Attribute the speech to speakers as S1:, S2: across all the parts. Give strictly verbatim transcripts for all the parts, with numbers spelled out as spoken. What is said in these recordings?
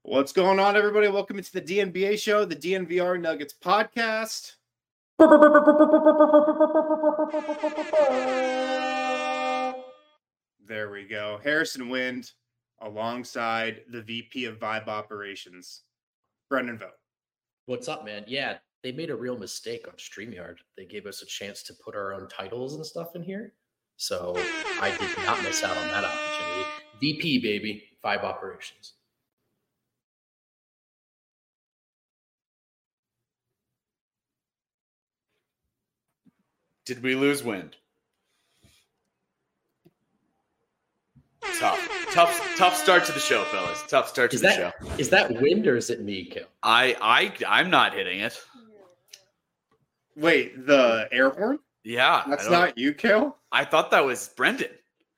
S1: What's going on, everybody? Welcome to the D N B A show, the D N V R Nuggets podcast. There we go. Harrison Wind alongside the V P of Vibe Operations, Brendan Vogt.
S2: What's up, man? Yeah, they made a real mistake on StreamYard. They gave us a chance to put our own titles and stuff in here. So I did not miss out on that opportunity. V P, baby. Vibe Operations.
S3: Did we lose Wind? Tough, tough, tough start to the show, fellas. Tough start to
S2: Is
S3: the
S2: that,
S3: show.
S2: Is that Wind or is it me, Kim?
S3: I, I, I'm not hitting it.
S1: Wait, the air horn?
S3: Yeah,
S1: That's not you, Kale?
S3: I thought that was Brendan.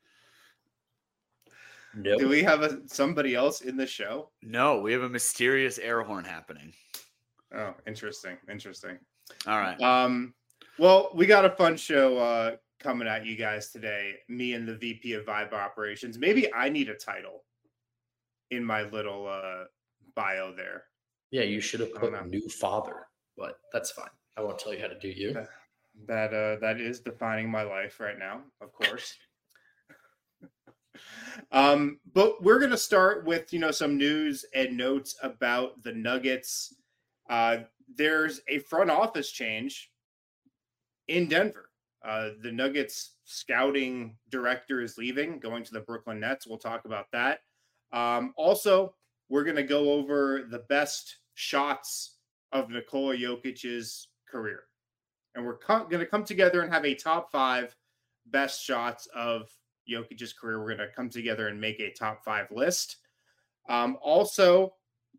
S2: No.
S1: Do we have a, somebody else in the show?
S3: No, we have a mysterious air horn happening.
S1: Oh, interesting, interesting.
S3: All right.
S1: Um, well, we got a fun show uh, coming at you guys today. Me and the V P of Vibe Operations. Maybe I need a title in my little uh, bio there.
S2: Yeah, you should have put
S1: know.
S2: new father, but that's fine. I won't tell you how to do you.
S1: That that, uh, that is defining my life right now, of course. um, but we're gonna start with you know some news and notes about the Nuggets. Uh, there's a front office change in Denver. Uh, the Nuggets scouting director is leaving, going to the Brooklyn Nets. We'll talk about that. Um, also, we're going to go over the best shots of Nikola Jokic's career. And we're co- going to come together and have a top five best shots of Jokic's career. We're going to come together and make a top five list. Um, also,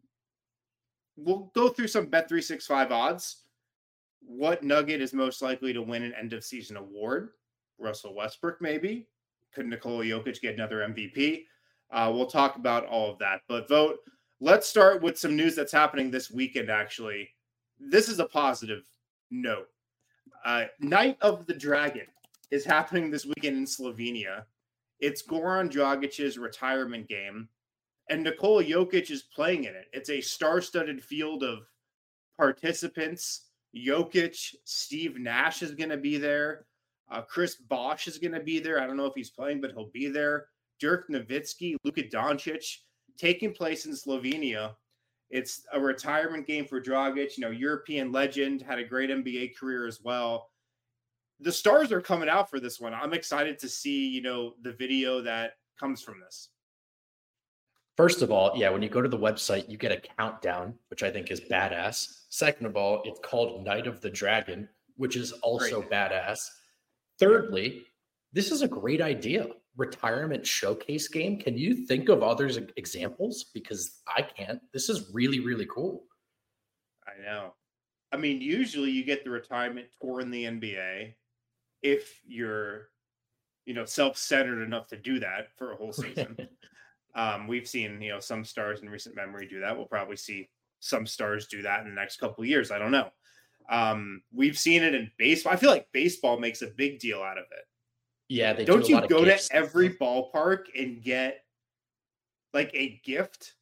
S1: we'll go through some Bet three sixty-five odds. What Nugget is most likely to win an end-of-season award? Russell Westbrook, maybe? Could Nikola Jokic get another M V P? Uh, we'll talk about all of that. But Vote, let's start with some news that's happening this weekend, actually. This is a positive note. Uh, Night of the Dragon is happening this weekend in Slovenia. It's Goran Dragic's retirement game, and Nikola Jokic is playing in it. It's a star-studded field of participants. Jokic, Steve Nash is going to be there. Uh, Chris Bosh is going to be there. I don't know if he's playing, but he'll be there. Dirk Nowitzki, Luka Doncic, taking place in Slovenia. It's a retirement game for Dragic. You know, European legend, had a great N B A career as well. The stars are coming out for this one. I'm excited to see, you know, the video that comes from this.
S2: First of all, yeah, when you go to the website, you get a countdown, which I think is badass. Second of all, it's called Night of the Dragon, which is also great. Badass. Thirdly, this is a great idea. Retirement showcase game. Can you think of other examples? Because I can't. This is really, really cool.
S1: I know. I mean, usually you get the retirement tour in the N B A if you're, you know, self-centered enough to do that for a whole season. Um, we've seen, you know, some stars in recent memory do that. We'll probably see some stars do that in the next couple of years. I don't know. Um, we've seen it in baseball. I feel like baseball makes a big deal out of it.
S2: Yeah, they
S1: don't
S2: do a
S1: you
S2: lot of
S1: go
S2: gifts.
S1: to every ballpark and get like a gift?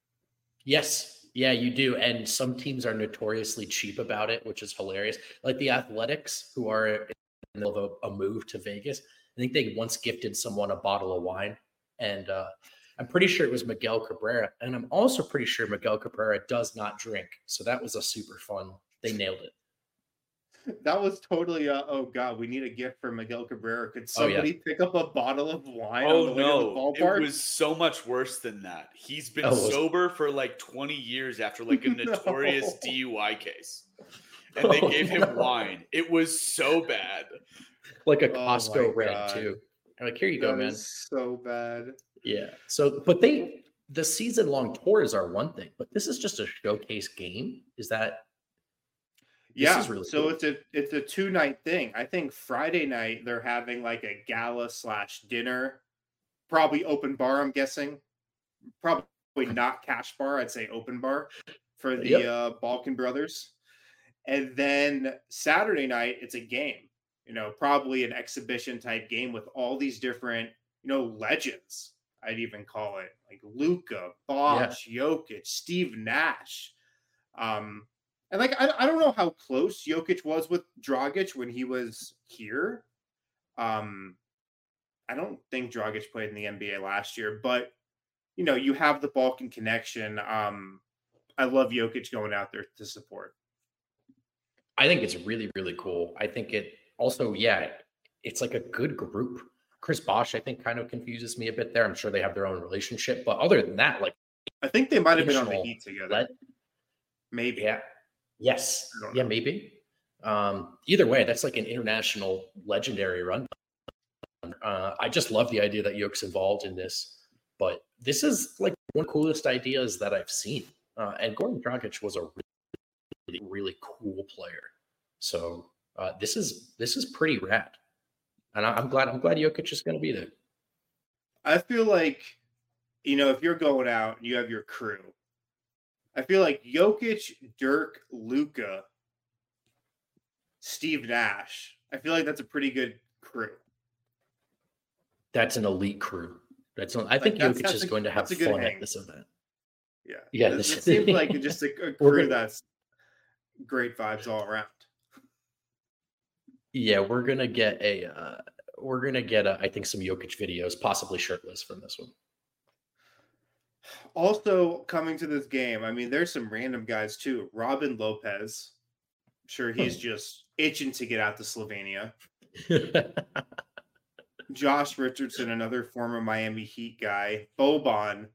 S2: Yes. Yeah, you do. And some teams are notoriously cheap about it, which is hilarious. Like the Athletics, who are in the middle of a, a move to Vegas. I think they once gifted someone a bottle of wine. And uh, I'm pretty sure it was Miguel Cabrera. And I'm also pretty sure Miguel Cabrera does not drink. So that was a super fun. They nailed it.
S1: That was totally, uh, oh, God, we need a gift for Miguel Cabrera. Could somebody oh, yeah. pick up a bottle of wine
S3: oh,
S1: on the way
S3: no.
S1: to the ballpark?
S3: It was so much worse than that. He's been
S2: oh,
S3: sober for like twenty years after like a notorious no. D U I case. And they oh, gave him no. wine. It was so bad.
S2: Like a Costco
S1: oh,
S2: red,
S1: God.
S2: too. I'm like, here you
S1: that
S2: go, man.
S1: So bad.
S2: Yeah. So, but they, the season long tours are one thing, but this is just a showcase game. Is that?
S1: Yeah.
S2: Really
S1: so
S2: cool.
S1: it's a, it's a two night thing. I think Friday night they're having like a gala slash dinner, probably open bar. I'm guessing probably not cash bar. I'd say open bar for the
S2: yep.
S1: uh, Balkan brothers. And then Saturday night, it's a game, you know, probably an exhibition type game with all these different, you know, legends. I'd even call it, like Luka, Bosh, yeah. Jokic, Steve Nash. Um, and like, I, I don't know how close Jokic was with Dragic when he was here. Um, I don't think Dragic played in the N B A last year, but you know, you have the Balkan connection. Um, I love Jokic going out there to support.
S2: I think it's really, really cool. I think it also, yeah, it's like a good group. Chris Bosh, I think, kind of confuses me a bit there. I'm sure they have their own relationship, but other than that, like,
S1: I think they might have been on the Heat together. Let,
S2: maybe. Yeah. Yes. Yeah, know. maybe. Um, either way, that's like an international legendary run. Uh, I just love the idea that Jokic's involved in this, but this is like one of the coolest ideas that I've seen. Uh, and Goran Dragic was a really, really cool player. So uh, this is this is pretty rad. And I'm glad I'm glad Jokic is going to be there.
S1: I feel like, you know, if you're going out and you have your crew, I feel like Jokic, Dirk, Luka, Steve Nash, I feel like that's a pretty good crew.
S2: That's an elite crew. That's I think like, Jokic that's, that's is a, going to have fun hang. at this event.
S1: Yeah.
S2: Yeah.
S1: This, this seems like just a, a crew that's great vibes all around.
S2: Yeah, we're gonna get a uh, we're gonna get a, I think some Jokic videos, possibly shirtless from this one.
S1: Also coming to this game, I mean, there's some random guys too. Robin Lopez, I'm sure he's just itching to get out to Slovenia. Josh Richardson, another former Miami Heat guy. Boban,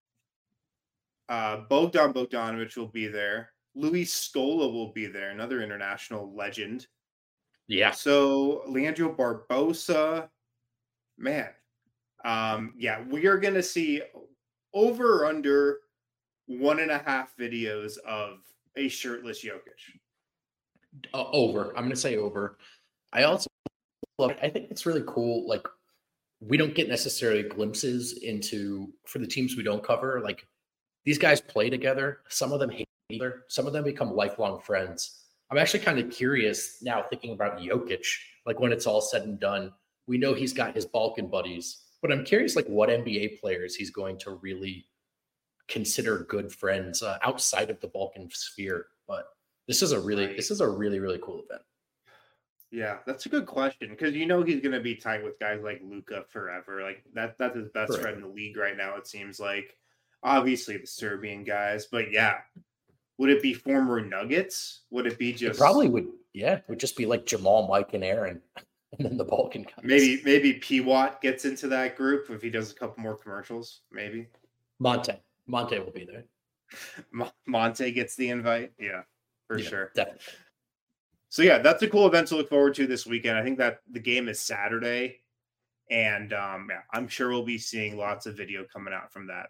S1: uh, Bogdan Bogdanovic will be there. Luis Scola will be there, another international legend.
S2: Yeah.
S1: So Leandro Barbosa, man, um, yeah, we are going to see over or under one and a half videos of a shirtless Jokic.
S2: Uh, over. I'm going to say over. I also love, I think it's really cool. Like, we don't get necessarily glimpses into, for the teams we don't cover, like these guys play together. Some of them hate each other. Some of them become lifelong friends. I'm actually kind of curious now thinking about Jokic, like when it's all said and done, we know he's got his Balkan buddies, but I'm curious like what N B A players he's going to really consider good friends uh, outside of the Balkan sphere. But this is a really, right. this is a really, really cool event.
S1: Yeah, that's a good question because you know he's going to be tight with guys like Luka forever. Like that, that's his best forever. friend in the league right now, it seems like. Obviously the Serbian guys, but yeah. Would it be former Nuggets? Would it be just...
S2: It probably would, yeah. It would just be like Jamal, Mike, and Aaron, and then the Balkan guys.
S1: Maybe maybe P. Watt gets into that group if he does a couple more commercials, maybe.
S2: Monte. Monte will be there.
S1: Monte gets the invite? Yeah, for
S2: yeah,
S1: sure.
S2: Definitely.
S1: So yeah, that's a cool event to look forward to this weekend. I think that the game is Saturday, and um, yeah, I'm sure we'll be seeing lots of video coming out from that.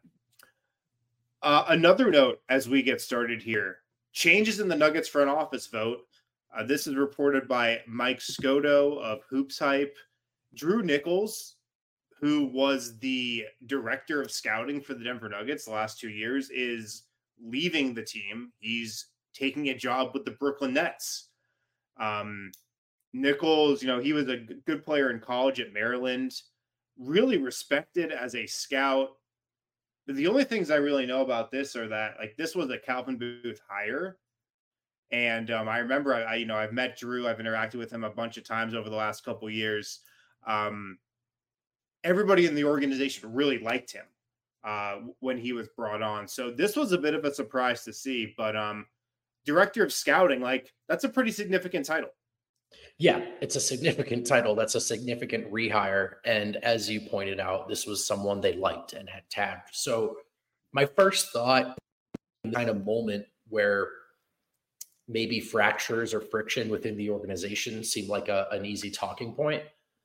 S1: Uh, another note as we get started here, changes in the Nuggets front office vote. Uh, this is reported by Mike Scotto of Hoops Hype. Drew Nichols, who was the director of scouting for the Denver Nuggets the last two years, is leaving the team. He's taking a job with the Brooklyn Nets. Um, Nichols, you know, he was a good player in college at Maryland, really respected as a scout. The only things I really know about this are that, like, this was a Calvin Booth hire. And um, I remember, I, I, you know, I've met Drew. I've interacted with him a bunch of times over the last couple of years. Um, everybody in the organization really liked him uh, when he was brought on. So this was a bit of a surprise to see. But um, director of scouting, like, that's a pretty significant title.
S2: Yeah, it's a significant title. That's a significant rehire. And as you pointed out, this was someone they liked and had tagged. So my first thought, kind of moment where maybe fractures or friction within the organization seemed like a, an easy talking point.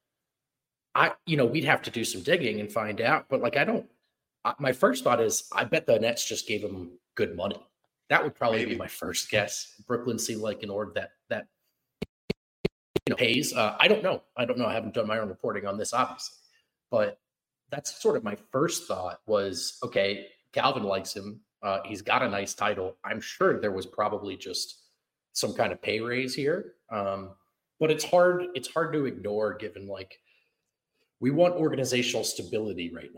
S2: I, you know, we'd have to do some digging and find out. But like, I don't, I, my first thought is, I bet the Nets just gave him good money. That would probably maybe be my first guess. Brooklyn seemed like an org that, that, you know, pays. Uh, I don't know. I don't know. I haven't done my own reporting on this, obviously. But that's sort of my first thought was, okay, Calvin likes him. Uh, he's got a nice title. I'm sure there was probably just some kind of pay raise here. Um, but it's hard. It's hard to ignore given like we want organizational stability right now.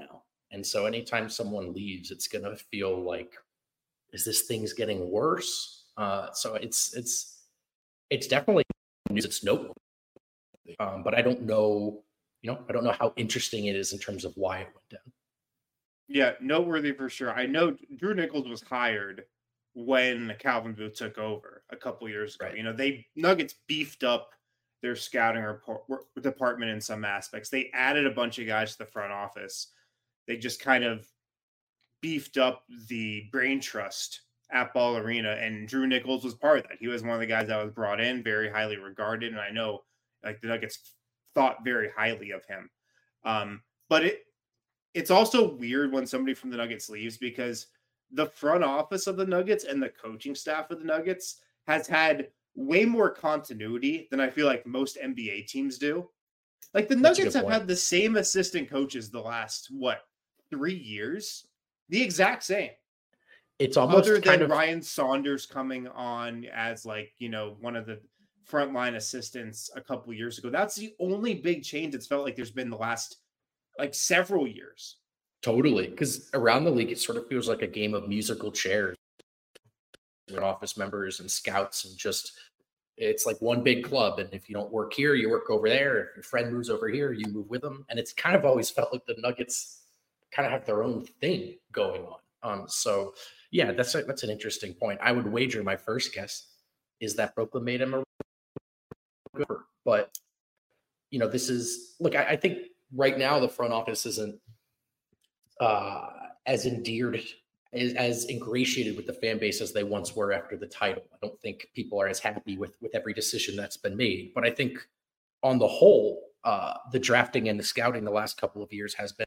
S2: And so anytime someone leaves, it's going to feel like, is this thing's getting worse? Uh, so it's, it's, it's definitely news. It's noteworthy. Um, but I don't know, you know, I don't know how interesting it is in terms of why it went down.
S1: Yeah, noteworthy for sure. I know Drew Nichols was hired when Calvin Booth took over a couple years ago.
S2: Right.
S1: You know, they Nuggets beefed up their scouting report, department in some aspects. They added a bunch of guys to the front office. They just kind of beefed up the brain trust at Ball Arena, and Drew Nichols was part of that. He was one of the guys that was brought in, very highly regarded, and I know like the Nuggets thought very highly of him. Um, but it it's also weird when somebody from the Nuggets leaves, because the front office of the Nuggets and the coaching staff of the Nuggets has had way more continuity than I feel like most N B A teams do. Like the Nuggets have point. had the same assistant coaches the last, what, three years? The exact same.
S2: It's almost
S1: other than
S2: kind of...
S1: Ryan Saunders coming on as like, you know, one of the frontline assistants a couple years ago. That's the only big change it's felt like there's been the last like several years.
S2: Totally. Because around the league, it sort of feels like a game of musical chairs with office members and scouts, and just, it's like one big club. And if you don't work here, you work over there. If your friend moves over here, you move with them. And it's kind of always felt like the Nuggets kind of have their own thing going on. Um, so yeah, that's a, that's an interesting point. I would wager my first guess is that Brooklyn made him a good, but you know, this is, look, I, I think right now the front office isn't uh, as endeared, as, as ingratiated with the fan base as they once were after the title. I don't think people are as happy with, with every decision that's been made, but I think on the whole, uh, the drafting and the scouting the last couple of years has been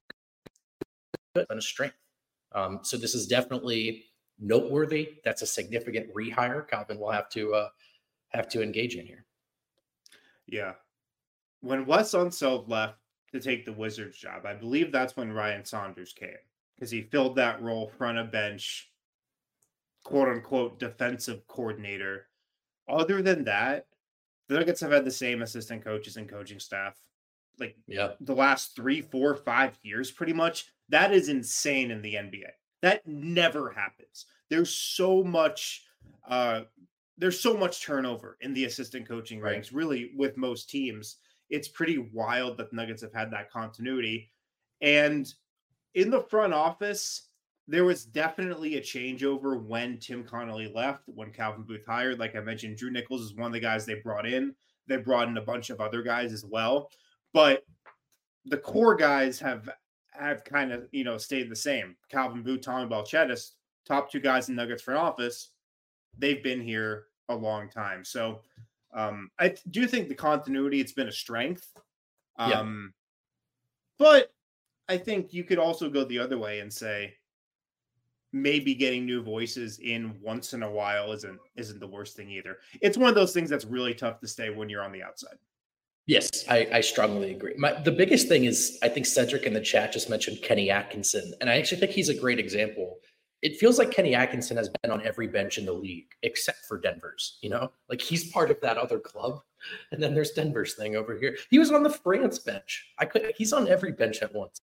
S2: a strength. Um, so this is definitely noteworthy. That's a significant rehire Calvin will have to uh, have to engage in here.
S1: Yeah. When Wes Unseld left to take the Wizards job, I believe that's when Ryan Saunders came, because he filled that role, front of bench, quote unquote, defensive coordinator. Other than that, the Nuggets have had the same assistant coaches and coaching staff like
S2: yeah.
S1: the last three, four, five years, pretty much. That is insane in the N B A. That never happens. There's so much, uh, there's so much turnover in the assistant coaching
S2: right.
S1: ranks, really, with most teams. It's pretty wild that the Nuggets have had that continuity. And in the front office, there was definitely a changeover when Tim Connolly left, when Calvin Booth hired. Like I mentioned, Drew Nichols is one of the guys they brought in. They brought in a bunch of other guys as well. But the core guys have have kind of, you know, stayed the same. Calvin Booth, Tommy Balcetis, top two guys in Nuggets front office, they've been here a long time. So um, I do think the continuity, it's been a strength. Um, yeah. But I think you could also go the other way and say maybe getting new voices in once in a while isn't isn't the worst thing either. It's one of those things that's really tough to stay when you're on the outside.
S2: Yes, I, I strongly agree. My, the biggest thing is, I think Cedric in the chat just mentioned Kenny Atkinson, and I actually think he's a great example. It feels like Kenny Atkinson has been on every bench in the league except for Denver's, you know? Like he's part of that other club, and then there's Denver's thing over here. He was on the France bench. I could. He's on every bench at once.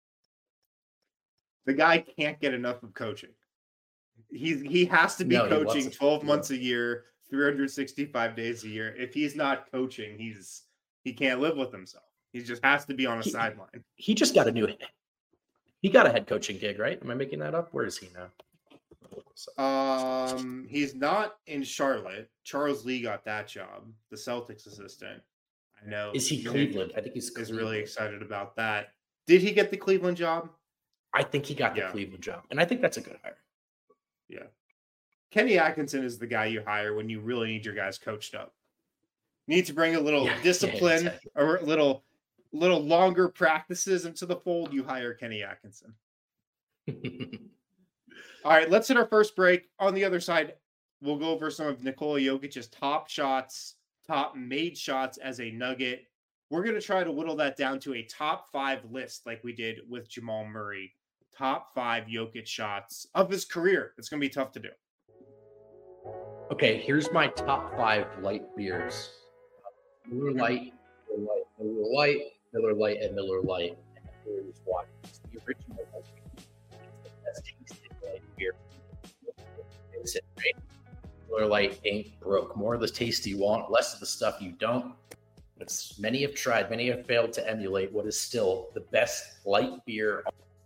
S1: The guy can't get enough of coaching. He's, he has to be no, coaching twelve months a year, three hundred sixty-five days a year. If he's not coaching, he's... He can't live with himself. He just has to be on a he, sideline.
S2: He just got a new he got a head coaching gig, right? Am I making that up? Where is he
S1: now? Um, he's not in Charlotte. Charles Lee got that job, the Celtics assistant. I know.
S2: Is he Cleveland? I think he's
S1: is really excited about that. Did he get the Cleveland job?
S2: I think he got the yeah. Cleveland job, and I think that's a good hire.
S1: Yeah. Kenny Atkinson is the guy you hire when you really need your guys coached up. Need to bring a little yeah, discipline yeah, exactly. or a little little longer practices into the fold, you hire Kenny Atkinson. All right, let's hit our first break. On the other side, we'll go over some of Nikola Jokic's top shots, top made shots as a Nugget. We're going to try to whittle that down to a top five list like we did with Jamal Murray. Top five Jokic shots of his career. It's going to be tough to do.
S2: Okay, here's my top five light beers. Miller Lite, Miller Lite, Miller Lite, Miller Lite, and Miller Lite. And here's why. It's the original That's it, right? Miller Lite ain't broke. More of the taste you want, less of the stuff you don't. It's, many have tried, many have failed to emulate what is still the best light beer.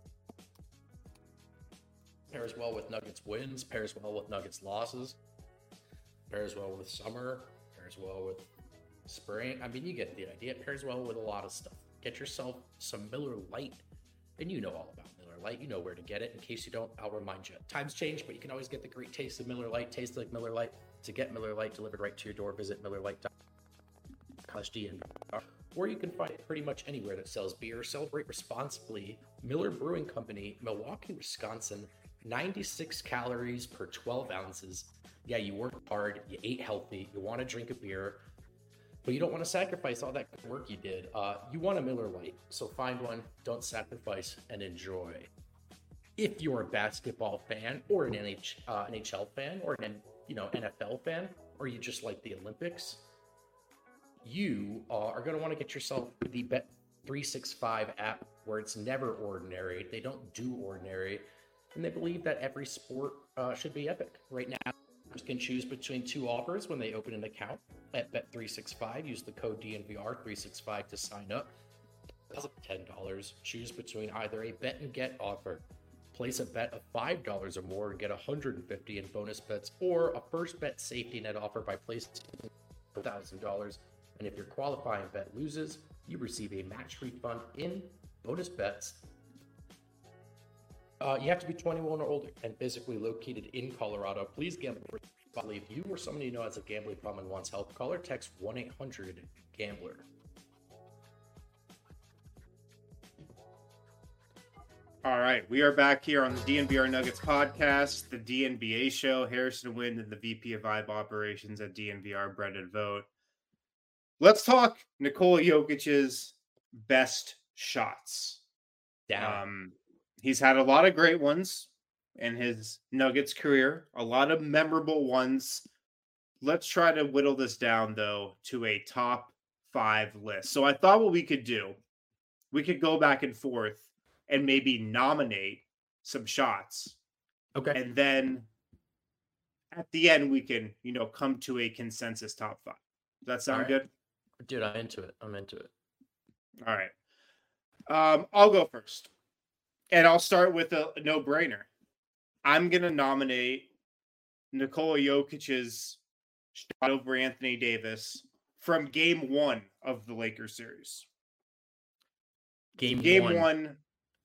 S2: Pairs well with Nuggets wins, pairs well with Nuggets losses, pairs well with summer, pairs well with spring. I mean, you get the idea. It pairs well with a lot of stuff. Get yourself some Miller Lite, and you know all about Miller Lite. You know where to get it. In case you don't, I'll remind you. Times change, but you can always get the great taste of Miller Lite. Taste like Miller Lite. To get Miller Lite delivered right to your door, visit Miller Lite dot com. Or you can find it pretty much anywhere that sells beer. Celebrate responsibly. Miller Brewing Company, Milwaukee, Wisconsin. ninety-six calories per twelve ounces. Yeah, you worked hard, you ate healthy, you want to drink a beer, but you don't want to sacrifice all that good work you did. Uh, you want a Miller Lite, so find one, don't sacrifice, and enjoy. If you're a basketball fan, or an N H, uh, N H L fan, or an you know N F L fan, or you just like the Olympics, you uh, are going to want to get yourself the Bet three sixty-five app, where it's never ordinary. They don't do ordinary. And they believe that every sport uh, should be epic. Right now, you can choose between two offers when they open an account at Bet three sixty-five. Use the code D N V R three sixty-five to sign up. That's ten dollars. Choose between either a bet and get offer. Place a bet of five dollars or more and get one hundred fifty dollars in bonus bets, or a first bet safety net offer by placing one thousand dollars. And if your qualifying bet loses, you receive a match refund in bonus bets. Uh, you have to be twenty-one or older and physically located in Colorado. Please gamble responsibly. If you or someone you know has a gambling problem and wants help, call or text one eight hundred gambler.
S1: All right, we are back here on the D N V R Nuggets podcast, the D N B A show. Harrison Wind and the V P of Vibe Operations at D N V R, Brendan Vogt. Let's talk Nikola Jokic's best shots.
S2: Down.
S1: Um, he's had a lot of great ones in his Nuggets career, a lot of memorable ones. Let's try to whittle this down, though, to a top five list. So I thought what we could do, we could go back and forth and maybe nominate some shots.
S2: Okay.
S1: And then at the end, we can, you know, come to a consensus top five. Does that sound
S2: right.
S1: good?
S2: Dude, I'm into it. I'm into it.
S1: All right. Um, I'll go first. And I'll start with a, a no-brainer. I'm going to nominate Nikola Jokic's shot over Anthony Davis from game one of the Lakers series.
S2: Game,
S1: game
S2: one.
S1: one,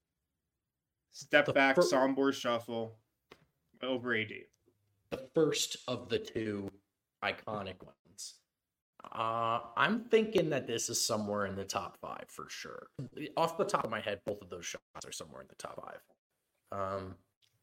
S1: step
S2: The
S1: back,
S2: fir-
S1: sombor shuffle over A D.
S2: The first of the two iconic ones. Uh, I'm thinking that this is somewhere in the top five for sure. Off the top of my head, both of those shots are somewhere in the top five. Um,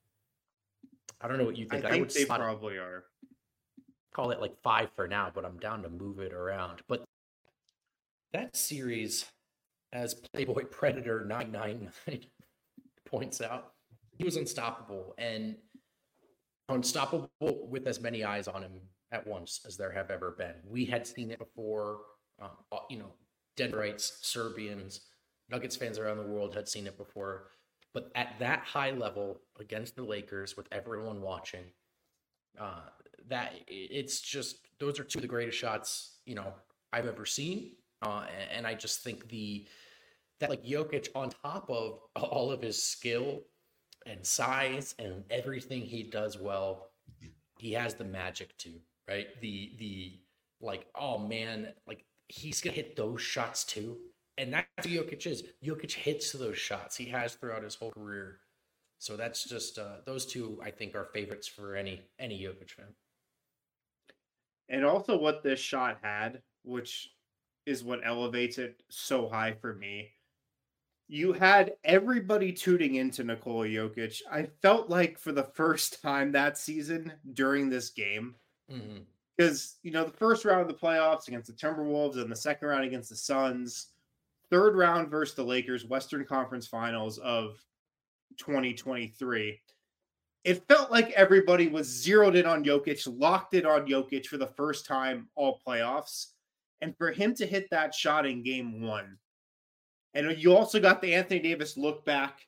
S2: I don't know what you think.
S1: I
S2: I
S1: think
S2: would
S1: they
S2: slot-
S1: probably are.
S2: call it like five for now, but I'm down to move it around. But that series, as Playboy Predator nine nine nine points out, he was unstoppable, and unstoppable with as many eyes on him at once as there have ever been. We had seen it before. Uh, you know, Denverites, Serbians, Nuggets fans around the world had seen it before. But at that high level against the Lakers, with everyone watching, uh, that it's just, those are two of the greatest shots, you know, I've ever seen. Uh, and, and I just think the, that like Jokic, on top of all of his skill and size and everything he does well, he has the magic too, right? The, the like, oh man, like he's going to hit those shots too. And that's what Jokic is. Jokic hits those shots he has throughout his whole career. So that's just, uh, those two, I think, are favorites for any, any Jokic fan.
S1: And also what this shot had, which is what elevates it so high for me. You had everybody tuning into Nikola Jokic. I felt like for the first time that season during this game,
S2: Mm-hmm.
S1: because, you know, the first round of the playoffs against the Timberwolves and the second round against the Suns, third round versus the Lakers, Western Conference Finals of twenty twenty-three. It felt like everybody was zeroed in on Jokic, locked in on Jokic for the first time all playoffs. And for him to hit that shot in game one, and you also got the Anthony Davis look back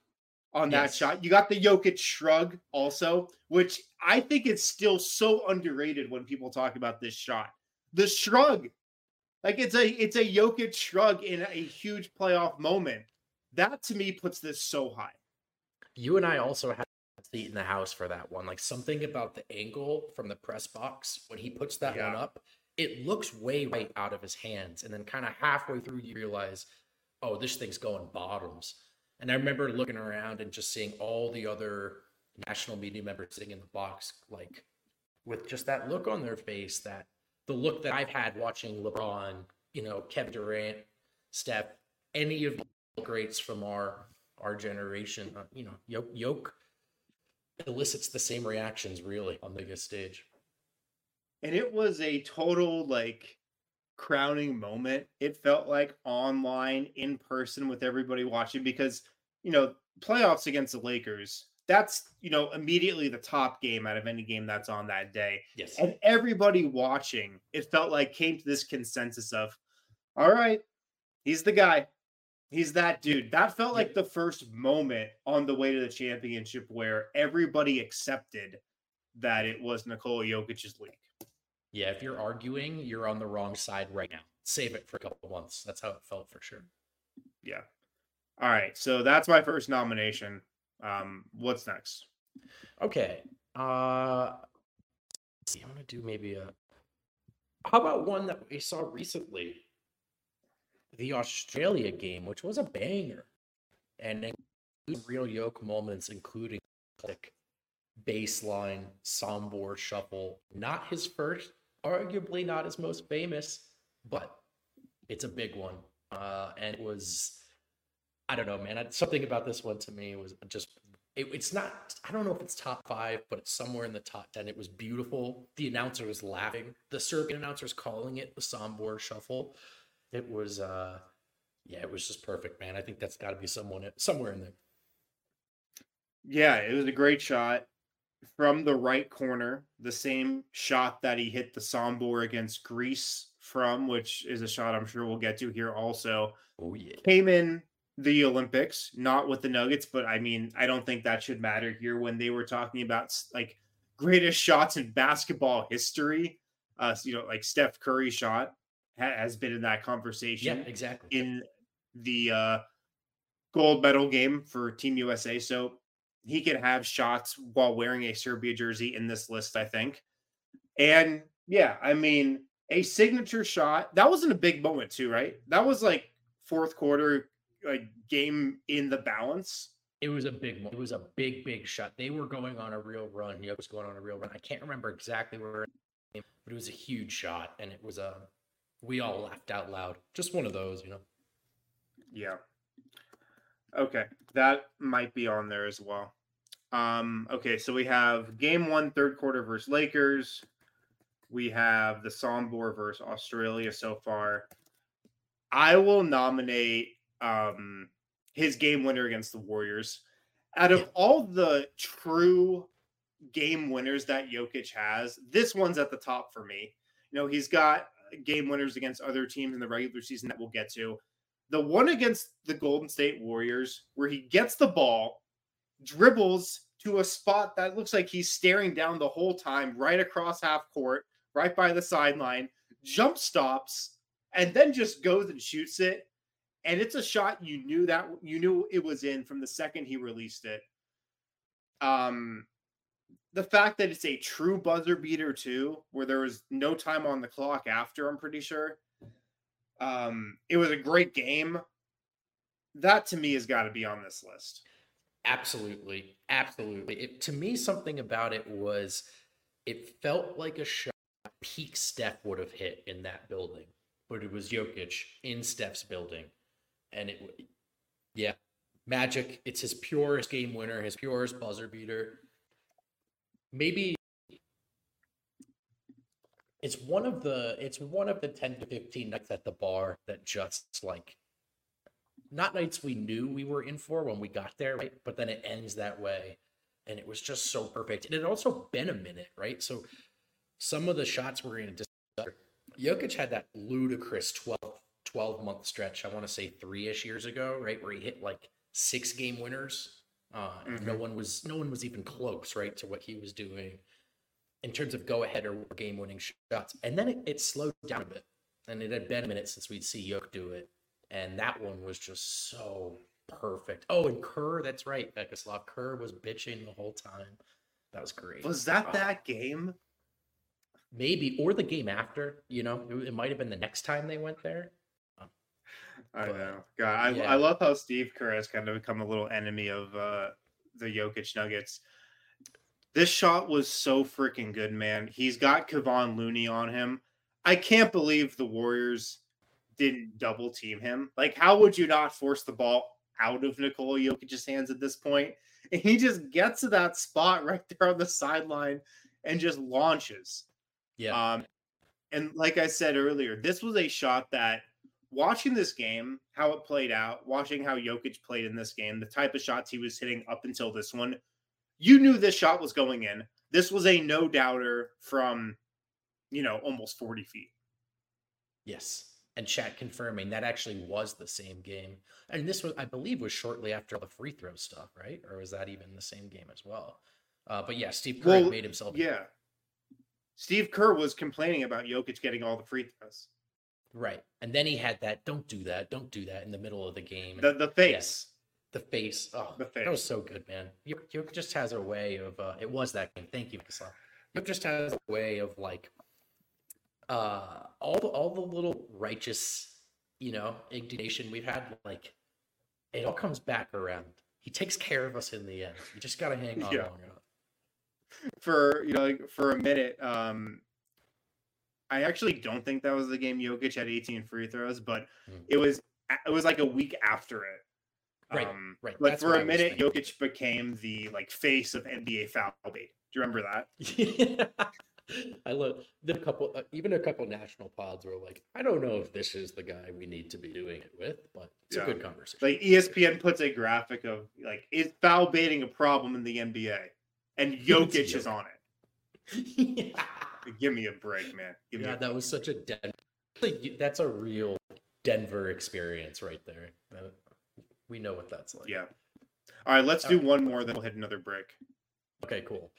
S1: on that
S2: Yes.
S1: shot. You got the Jokic shrug also, which I think is still so underrated when people talk about this shot. The shrug, like it's a it's a Jokic shrug in a huge playoff moment. That to me puts this so high.
S2: You and I also had a seat in the house for that one. Like something about the angle from the press box when he puts that
S1: Yeah.
S2: one up, it looks way right out of his hands, and then kind of halfway through you realize, oh, this thing's going bottoms. And I remember looking around and just seeing all the other national media members sitting in the box, like with just that look on their face, that the look that I've had watching LeBron, you know, Kevin Durant, Steph, any of the greats from our our generation, uh, you know, Yoke, Yoke elicits the same reactions really on the biggest stage.
S1: And it was a total like crowning moment. It felt like online, in person with everybody watching because, you know, playoffs against the Lakers, that's, you know, immediately the top game out of any game that's on that day.
S2: Yes.
S1: And everybody watching, it felt like came to this consensus of, all right, he's the guy. He's that dude. That felt like
S2: Yep.
S1: the first moment on the way to the championship where everybody accepted that it was Nikola Jokic's league.
S2: Yeah, if you're arguing, you're on the wrong side right now. Save it for a couple of months. That's how it felt for sure.
S1: Yeah. All right. So that's my first nomination. Um, what's next?
S2: Okay. Uh let's see, I'm gonna do maybe a how about one that we saw recently? The Australia game, which was a banger. And includes real yoke moments, including like baseline Sombor shuffle. Not his first, arguably not his most famous, but it's a big one. Uh, and it was, I don't know, man. Something about this one to me was just, it, it's not, I don't know if it's top five, but it's somewhere in the top ten. It was beautiful. The announcer was laughing. The Serbian announcer was calling it the Sombor shuffle. It was, uh, yeah, it was just perfect, man. I think that's got to be someone somewhere in there.
S1: Yeah, it was a great shot from the right corner. The same shot that he hit the Sombor against Greece from, which is a shot I'm sure we'll get to here also.
S2: Oh, yeah.
S1: Came in the Olympics, not with the Nuggets, but I mean, I don't think that should matter here when they were talking about like greatest shots in basketball history. Uh, you know, like Steph Curry shot ha- has been in that conversation.
S2: Yeah, exactly.
S1: In the uh, gold medal game for Team U S A. So he can have shots while wearing a Serbia jersey in this list, I think. And yeah, I mean, a signature shot. That wasn't a big moment too, right? That was like fourth quarter, like game in the balance.
S2: It was a big one. It was a big, big shot. They were going on a real run. He was going on a real run. I can't remember exactly where, but it was a huge shot, and it was a. We all laughed out loud. Just one of those, you know.
S1: Yeah. Okay, that might be on there as well. Um, okay, so we have game one, third quarter versus Lakers. We have the Sombor versus Australia so far. I will nominate um, his game winner against the Warriors. Out of
S2: Yeah.
S1: all the true game winners that Jokic has, this one's at the top for me. You know, he's got game winners against other teams in the regular season that we'll get to. The one against the Golden State Warriors, where he gets the ball, dribbles to a spot that looks like he's staring down the whole time, right across half court, right by the sideline, jump stops, and then just goes and shoots it. And it's a shot you knew that you knew it was in from the second he released it. Um, the fact that it's a true buzzer beater too, where there was no time on the clock after, I'm pretty sure. Um, it was a great game. That to me has got to be on this list.
S2: Absolutely, absolutely. It, to me, something about it was, it felt like a shot peak Steph would have hit in that building, but it was Jokic in Steph's building, and it, yeah, magic. It's his purest game winner, his purest buzzer beater. Maybe it's one of the it's one of the ten to fifteen nights at the bar that just like, not nights we knew we were in for when we got there, right? But then it ends that way. And it was just so perfect. And it had also been a minute, right? So some of the shots were in discuss. Jokic had that ludicrous twelve, twelve month stretch, I want to say three-ish years ago, right? Where he hit like six game winners Uh,
S1: Mhm.
S2: No one was no one was even close, right, to what he was doing in terms of go ahead or game winning shots. And then it, it slowed down a bit, and it had been a minute since we'd see Yoke do it, and that one was just so perfect. Oh, and Kerr, that's right, Vekislav Kerr was bitching the whole time. That was great.
S1: Was that
S2: Oh,
S1: that game?
S2: maybe, or the game after? You know, it, it might have been the next time they went there.
S1: I
S2: But,
S1: know. God, I,
S2: yeah.
S1: I love how Steve Kerr has kind of become a little enemy of uh, the Jokic Nuggets. This shot was so freaking good, man. He's got Kevon Looney on him. I can't believe the Warriors didn't double team him. Like, how would you not force the ball out of Nikola Jokic's hands at this point? And he just gets to that spot right there on the sideline and just launches.
S2: Yeah.
S1: Um, and like I said earlier, this was a shot that watching this game, how it played out, watching how Jokic played in this game, the type of shots he was hitting up until this one, you knew this shot was going in. This was a no doubter from, you know, almost forty feet.
S2: Yes. And chat confirming that actually was the same game. And this was, I believe, was shortly after all the free throw stuff, right? Or was that even the same game as well? Uh, but yeah, Steve Kerr
S1: Well,
S2: made himself.
S1: Yeah. Steve Kerr was complaining about Jokic getting all the free throws.
S2: Right. And then he had that, don't do that, don't do that in the middle of the game.
S1: The, the face.
S2: Yeah, the face. Oh,
S1: The face.
S2: That was so good, man. Jokic just has a way of, uh, it was that game. Thank you, Vaslav. Jokic just has a way of like, uh, all the, all the little righteous, you know, indignation we've had, like, it all comes back around. He takes care of us in the end. You just got to hang on
S1: Yeah.
S2: long enough.
S1: For, you know, like, for a minute, um, I actually don't think that was the game Jokic had eighteen free throws, but
S2: Mm.
S1: it was it was like a week after it.
S2: Right,
S1: Um,
S2: right.
S1: Like
S2: That's
S1: for
S2: what
S1: a
S2: I was
S1: minute,
S2: thinking.
S1: Jokic became the like face of N B A foul bait. Do you remember that?
S2: Yeah. I love the couple, uh, even a couple national pods were like, I don't know if this is the guy we need to be doing it with, but it's
S1: Yeah.
S2: a good conversation.
S1: Like E S P N puts a graphic of like, is foul baiting a problem in the N B A? And Jokic is on it.
S2: Yeah.
S1: Give me a break, man. Give me
S2: Yeah,
S1: a
S2: that was such a Denver. Like, that's a real Denver experience right there. Uh, We know what that's like.
S1: Yeah. All right, let's
S2: All
S1: do
S2: right.
S1: one more, then we'll hit another break.
S2: Okay, cool.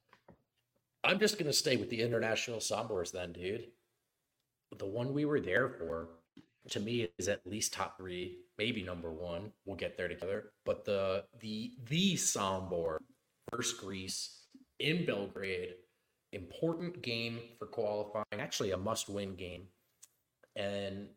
S2: I'm just gonna stay with the international Sombors then, dude. The one we were there for, to me, is at least top three, maybe number one. We'll get there together. But the the the Sombor versus Greece in Belgrade, important game for qualifying. Actually, a must-win game, and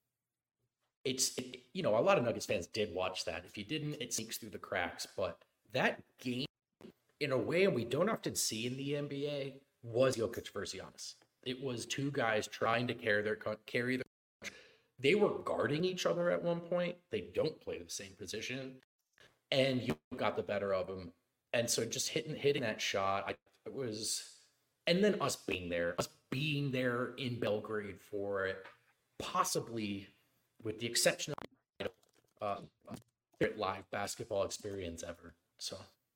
S2: it's it, you know, a lot of Nuggets fans did watch that. If you didn't, it sneaks through the cracks. But that game, in a way we don't often see in the N B A, was Jokic versus Giannis. It was two guys trying to carry their carry their. They were guarding each other at one point. They don't play the same position, and you got the better of them. And so just hitting hitting that shot, I it was, and then us being there, us being there in Belgrade for it, possibly, with the exception of uh, live basketball experience ever. So.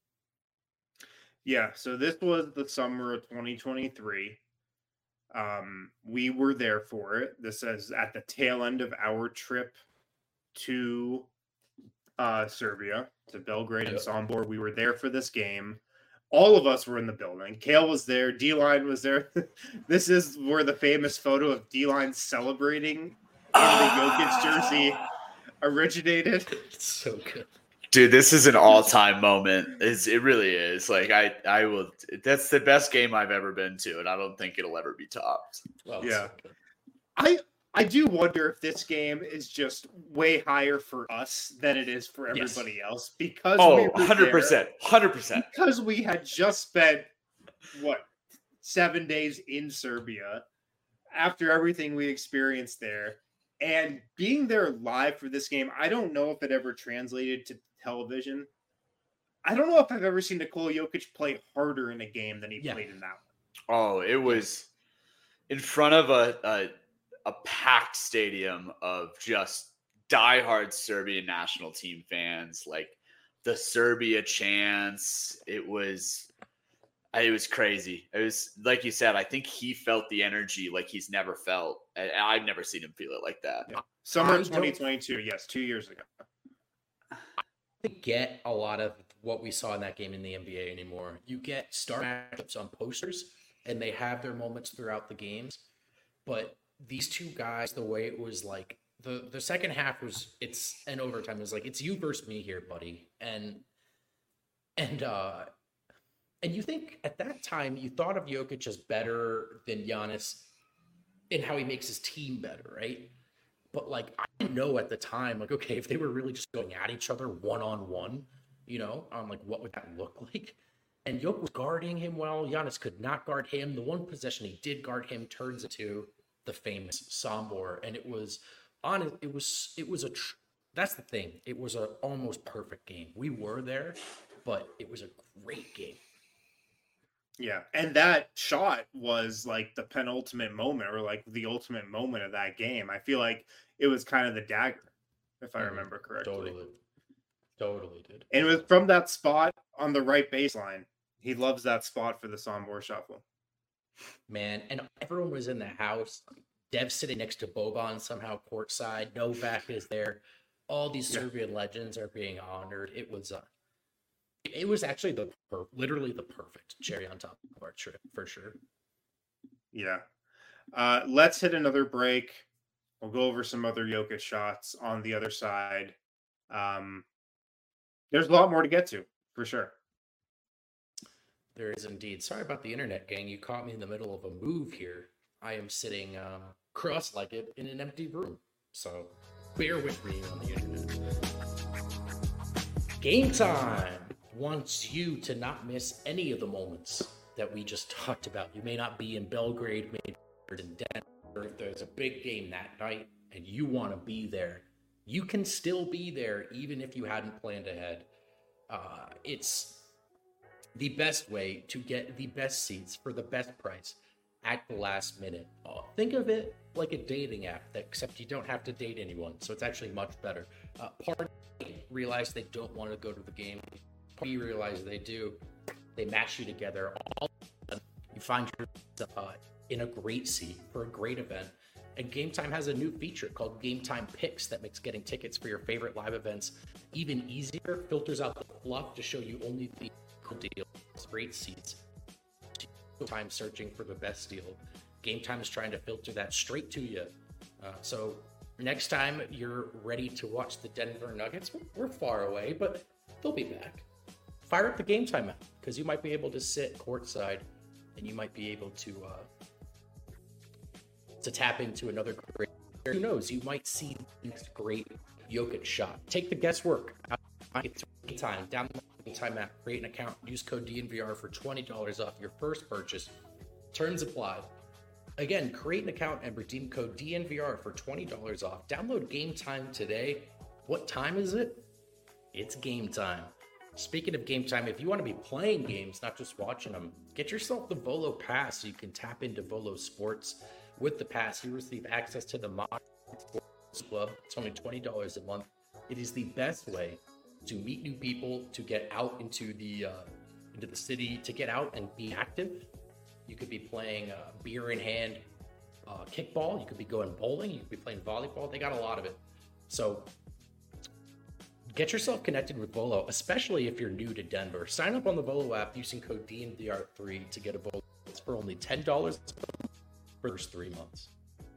S1: Yeah, so this was the summer of twenty twenty-three. Um, we were there for it. This is at the tail end of our trip to uh, Serbia, to Belgrade and
S2: Yep.
S1: Sombor. We were there for this game. All of us were in the building. Kale was there. D-Line was there. This is where the famous photo of D-Line celebrating in the Jokic jersey originated.
S2: It's so good.
S3: Dude, this is an all-time moment. It's, it really is. Like I, I will. That's the best game I've ever been to, and I don't think it'll ever be topped.
S2: Well, it's
S1: Yeah.
S2: so good.
S1: I I do wonder if this game is just way higher for us than it is for
S2: Yes.
S1: everybody else because
S3: Oh,
S1: we were
S3: one hundred
S1: there,
S3: percent, one hundred percent.
S1: because we had just spent what seven days in Serbia after everything we experienced there, and being there live for this game. I don't know if it ever translated to television. I don't know if I've ever seen Nikola Jokic play harder in a game than he
S2: Yeah.
S1: played in that one.
S3: Oh, it was in front of a, a a packed stadium of just diehard Serbian national team fans, like the Serbia chants. It was, it was crazy. It was like you said. I think he felt the energy like he's never felt. And I've never seen him feel it like that.
S1: Yeah. Summer
S2: I don't-
S1: twenty twenty-two, yes, two years ago.
S2: I get a lot of what we saw in that game in the N B A anymore. You get star matchups on posters, and they have their moments throughout the games. But these two guys, the way it was like, the, the second half was, it's an overtime. It was like, it's you versus me here, buddy. And, and, uh, and you think at that time, you thought of Jokic as better than Giannis in how he makes his team better, right? But like, I didn't know at the time, like, okay, if they were really just going at each other one-on-one, you know, I'm like, what would that look like? And Jokic was guarding him well. Giannis could not guard him. The one possession he did guard him turns into the famous Sombor. And it was on, it was, it was a, tr- that's the thing. It was a almost perfect game. We were there, but it was a great game.
S1: Yeah, and that shot was like the penultimate moment, or like the ultimate moment of that game. I feel like it was kind of the dagger, if I mm, remember correctly.
S2: Totally, totally did.
S1: And it was from that spot on the right baseline. He loves that spot for the Sombor shuffle.
S2: Man, and everyone was in the house. Dev sitting next to Boban somehow courtside. Novak is there. All these Serbian yeah. legends are being honored. It was uh, It was actually the per- literally the perfect cherry on top of our trip, for sure.
S1: Yeah. Uh, let's hit another break. We'll go over some other Jokic shots on the other side. Um, there's a lot more to get to, for sure.
S2: There is indeed. Sorry about the internet, gang. You caught me in the middle of a move here. I am sitting uh, cross-legged in an empty room. So bear with me on the internet. Game time wants you to not miss any of the moments that we just talked about. You may not be in Belgrade, maybe in Denver. If there's a big game that night and you want to be there, you can still be there even if you hadn't planned ahead. Uh, it's the best way to get the best seats for the best price at the last minute. Uh, think of it like a dating app, that, except you don't have to date anyone, so it's actually much better. Uh, part realize they don't want to go to the game. You realize they do. They match you together. All you find yourself uh, in a great seat for a great event. And Game Time has a new feature called Game Time Picks that makes getting tickets for your favorite live events even easier. Filters out the fluff to show you only the cool deals, great seats. Time searching for the best deal. Game Time is trying to filter that straight to you. Uh, so next time you're ready to watch the Denver Nuggets, we're far away, but they'll be back. Fire up the Game Time app, because you might be able to sit courtside and you might be able to uh, to tap into another great, who knows, you might see the next great Jokic shot. Take the guesswork. It's Game Time. Download the Game Time app, create an account, use code D N V R for twenty dollars off your first purchase. Terms apply. Again, create an account and redeem code D N V R for twenty dollars off. Download Game Time today. What time is it? It's game time. Speaking of Game Time, if you want to be playing games, not just watching them, get yourself the Volo Pass so you can tap into Volo Sports. With the pass, you receive access to the Modern Sports Club. It's only twenty dollars a month. It is the best way to meet new people, to get out into the uh, into the city, to get out and be active. You could be playing uh, beer in hand uh, kickball. You could be going bowling. You could be playing volleyball. They got a lot of it. So get yourself connected with Volo, especially if you're new to Denver. Sign up on the Volo app using code D N V R three to get a Volo. It's for only ten dollars for the first three months.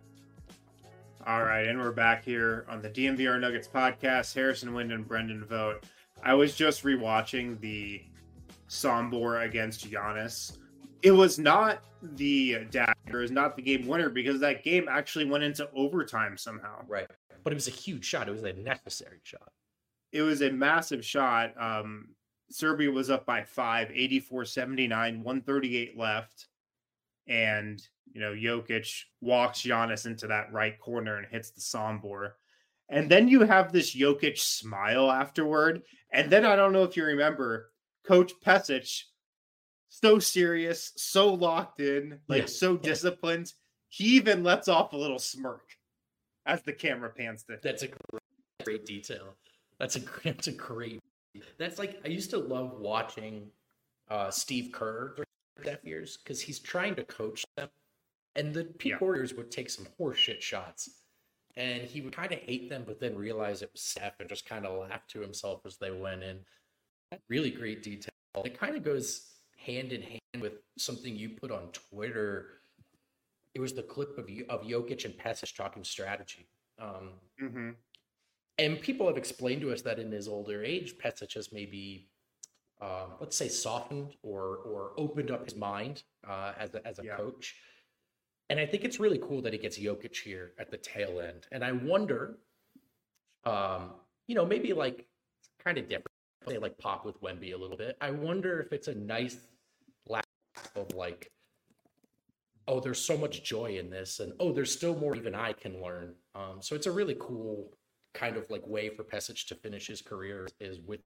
S1: All right, and we're back here on the D N V R Nuggets podcast. Harrison Wind and Brendan Vogt. I was just rewatching the Sombor against Giannis. It was not the dagger, it was not the game winner, because that game actually went into overtime somehow.
S2: Right, but it was a huge shot. It was a necessary shot.
S1: It was a massive shot. Um, Serbia was up by five, eighty-four seventy-nine, one thirty-eight left. And, you know, Jokic walks Giannis into that right corner and hits the Sombor. And then you have this Jokic smile afterward. And then I don't know if you remember, Coach Pesic, so serious, so locked in, like yeah. so disciplined. He even lets off a little smirk as the camera pans to him.
S2: That's a great, great detail. That's a that's a great. That's like, I used to love watching uh, Steve Kerr during years, because he's trying to coach them, and the P yeah. Warriors would take some horseshit shots, and he would kind of hate them, but then realize it was Steph and just kind of laugh to himself as they went in. Really great detail. It kind of goes hand in hand with something you put on Twitter. It was the clip of of Jokic and Pesic talking strategy. Um,
S1: mm-hmm.
S2: And people have explained to us that in his older age, Pesic has maybe, um, let's say, softened or or opened up his mind uh, as a, as a
S1: yeah.
S2: coach. And I think it's really cool that he gets Jokic here at the tail end. And I wonder, um, you know, maybe like kind of different, say like Pop with Wemby a little bit. I wonder if it's a nice laugh of like, oh, there's so much joy in this, and oh, there's still more even I can learn. Um, so it's a really cool kind of like way for Pesic to finish his career is with.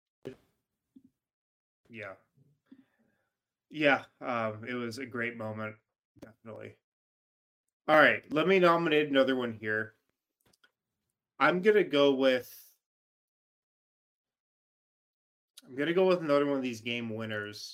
S1: Yeah. Yeah. Um, it was a great moment. Definitely. All right. Let me nominate another one here. I'm going to go with, I'm going to go with another one of these game winners.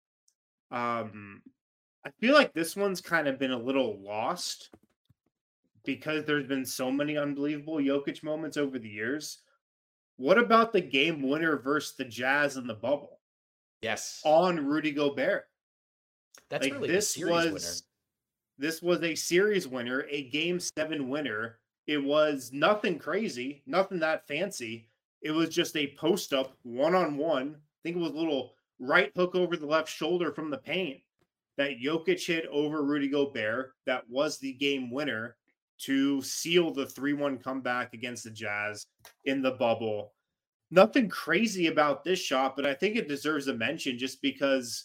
S1: Um, I feel like this one's kind of been a little lost because there's been so many unbelievable Jokic moments over the years. What about the game winner versus the Jazz in the bubble?
S2: Yes.
S1: On Rudy Gobert.
S2: That's
S1: like,
S2: really
S1: this
S2: a series
S1: was,
S2: winner.
S1: This was a series winner, a game seven winner. It was nothing crazy, nothing that fancy. It was just a post up one-on-one. I think it was a little right hook over the left shoulder from the paint that Jokic hit over Rudy Gobert. That was the game winner to seal the three one comeback against the Jazz in the bubble. Nothing crazy about this shot, but I think it deserves a mention just because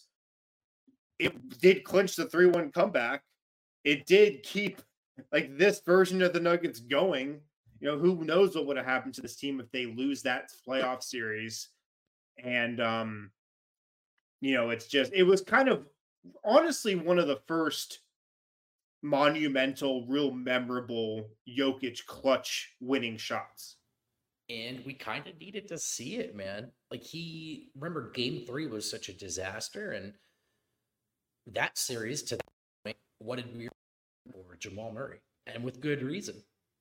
S1: it did clinch the three one comeback. It did keep like this version of the Nuggets going. You know, who knows what would have happened to this team if they lose that playoff series. And, um, you know, it's just, it was kind of honestly one of the first monumental, real memorable Jokic clutch winning shots.
S2: And we kind of needed to see it, man. Like he, remember game three was such a disaster. And that series to that point, what did we for Jamal Murray? And with good reason.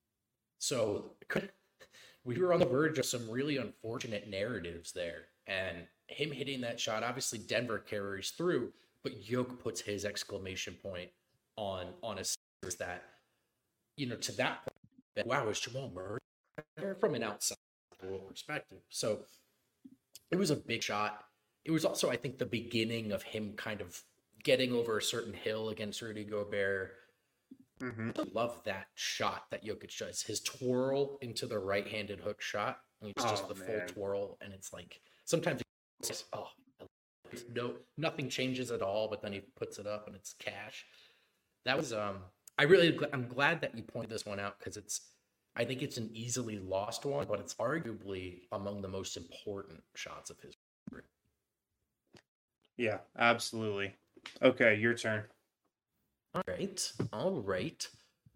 S2: So we were on the verge of some really unfortunate narratives there. And him hitting that shot, obviously Denver carries through, but Yoke puts his exclamation point on, on a series that, you know, to that point, wow, is Jamal Murray from an outside perspective. So it was a big shot. It was also, I think, the beginning of him kind of getting over a certain hill against Rudy Gobert.
S1: Mm-hmm.
S2: I love that shot that Jokic does. His twirl into the right-handed hook shot. And it's just
S1: oh,
S2: the
S1: man.
S2: full twirl. And it's like, sometimes it's just, oh, no, nothing changes at all, but then he puts it up and it's cash. That was, um, I really, I'm glad that you pointed this one out because it's, I think it's an easily lost one, but it's arguably among the most important shots of his career.
S1: Yeah, absolutely. Okay, your turn.
S2: All right. All right.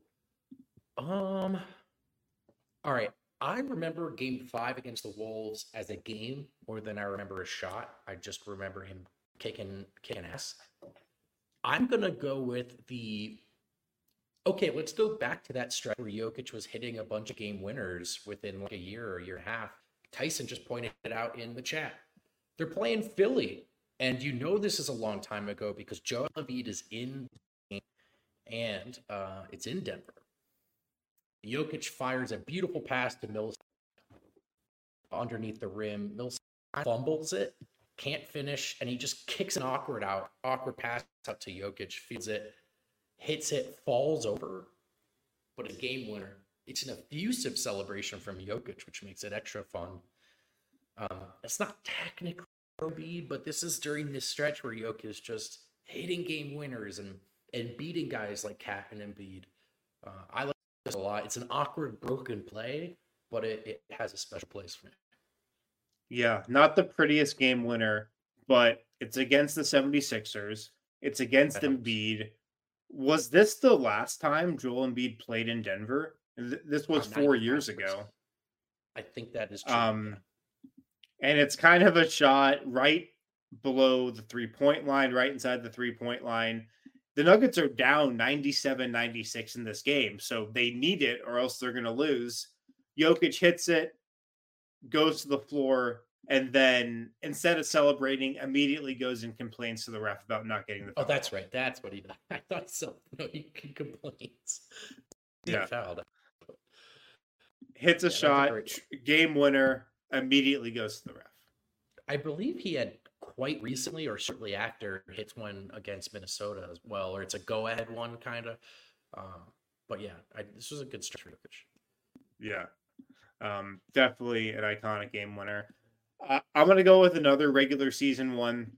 S2: Um, all right. I remember game five against the Wolves as a game more than I remember a shot. I just remember him kicking, kicking ass. I'm going to go with the, okay, let's go back to that stretch where Jokic was hitting a bunch of game winners within like a year or a year and a half. Tyson just pointed it out in the chat. They're playing Philly. And you know this is a long time ago because Joel Embiid is in and uh, it's in Denver. Jokic fires a beautiful pass to Millsap underneath the rim. Millsap fumbles it, can't finish, and he just kicks an awkward out, awkward pass out to Jokic, feeds it, hits it, falls over, but a game winner. It's an effusive celebration from Jokic, which makes it extra fun. Um, it's not technically Embiid, but this is during this stretch where Jokic is just hitting game winners and and beating guys like Cat and Embiid. Uh, I like this a lot. It's an awkward, broken play, but it, it has a special place for me.
S1: Yeah, not the prettiest game winner, but it's against the seventy-sixers. It's against Embiid. Was this the last time Joel Embiid played in Denver? This was four years ago.
S2: I think that is true.
S1: Um, and it's kind of a shot right below the three-point line, right inside the three-point line. The Nuggets are down ninety-seven ninety-six in this game, so they need it or else they're going to lose. Jokic hits it, goes to the floor, and then instead of celebrating, immediately goes and complains to the ref about not getting the
S2: Oh,
S1: foul.
S2: that's right. That's what he did. I thought so. No, he complains.
S1: Yeah.
S2: Fouled.
S1: Hits a
S2: Yeah, that's a
S1: shot,
S2: great-
S1: game winner, immediately goes to the ref.
S2: I believe he had quite recently or shortly after hits one against Minnesota as well, or it's a go-ahead one kind of. Um, but yeah, I, this was a good stretch for Jokic.
S1: Yeah, um, definitely an iconic game winner. Uh, I'm going to go with another regular season one.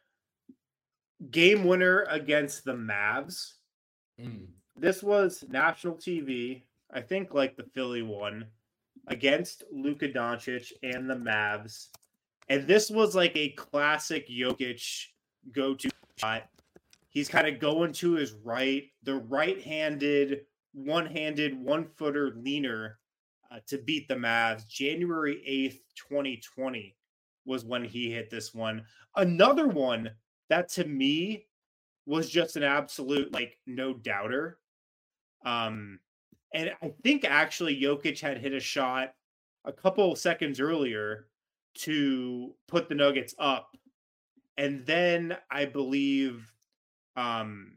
S1: Game winner against the Mavs.
S2: Mm.
S1: This was national T V, I think like the Philly one, against Luka Doncic and the Mavs. And this was like a classic Jokic go-to shot. He's kind of going to his right, the right-handed, one-handed, one-footer leaner uh, to beat the Mavs. January eighth, twenty twenty was when he hit this one. Another one that to me was just an absolute, like, no doubter. Um, and I think actually Jokic had hit a shot a couple seconds earlier to put the Nuggets up. And then I believe um,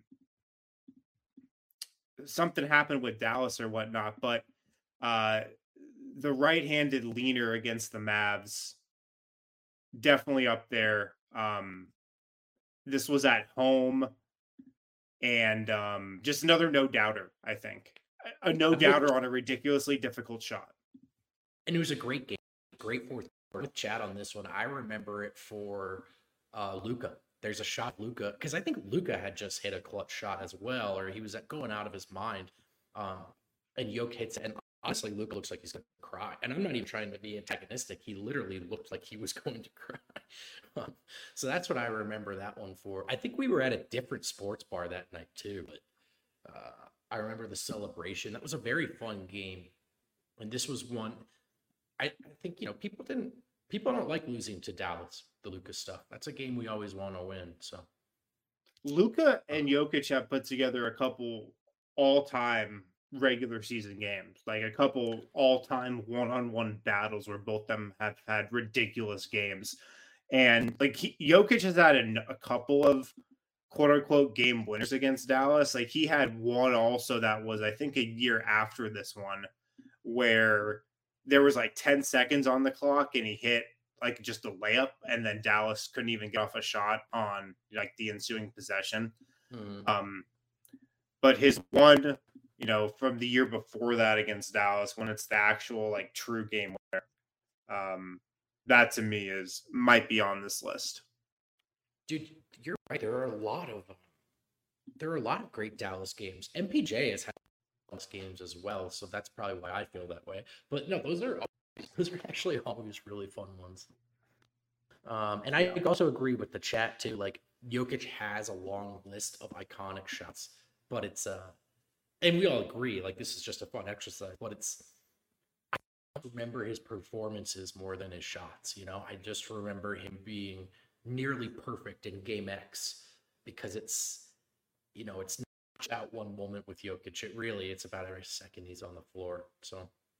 S1: something happened with Dallas or whatnot, but uh, the right-handed leaner against the Mavs, definitely up there. Um, this was at home, and um, just another no-doubter, I think. A no-doubter on a ridiculously difficult shot.
S2: And it was a great game. Great fourth quarter. With Chad on this one, I remember it for uh, Luka. There's a shot Luka, because I think Luka had just hit a clutch shot as well, or he was going out of his mind. Um, and Jokic hits it, and honestly, Luka looks like he's going to cry. And I'm not even trying to be antagonistic. He literally looked like he was going to cry. um, so that's what I remember that one for. I think we were at a different sports bar that night too, but uh, I remember the celebration. That was a very fun game. And this was one, I, I think, you know, people didn't, people don't like losing to Dallas, the Luka stuff. That's a game we always want to win. So
S1: Luka and Jokic have put together a couple all-time regular season games, like a couple all-time one-on-one battles where both them have had ridiculous games. And like he, Jokic has had a, a couple of quote-unquote game winners against Dallas. Like he had one also that was, I think, a year after this one, where there was like ten seconds on the clock and he hit like just a layup, and then Dallas couldn't even get off a shot on like the ensuing possession.
S2: mm.
S1: Um, but his one, you know, from the year before that against Dallas, when it's the actual like true game winner, um, that to me is might be on this list.
S2: Dude, you're right. There are a lot of there are a lot of great Dallas games. M P J has had Dallas games as well, so that's probably why I feel that way. But no, those are those are actually always really fun ones. Um, and I also agree with the chat too. Like Jokic has a long list of iconic shots, but it's uh, and we all agree like this is just a fun exercise. But it's I remember his performances more than his shots. You know, I just remember him being nearly perfect in Game X because it's you know it's not out one moment with Jokic. It really it's about every second he's on the floor. So,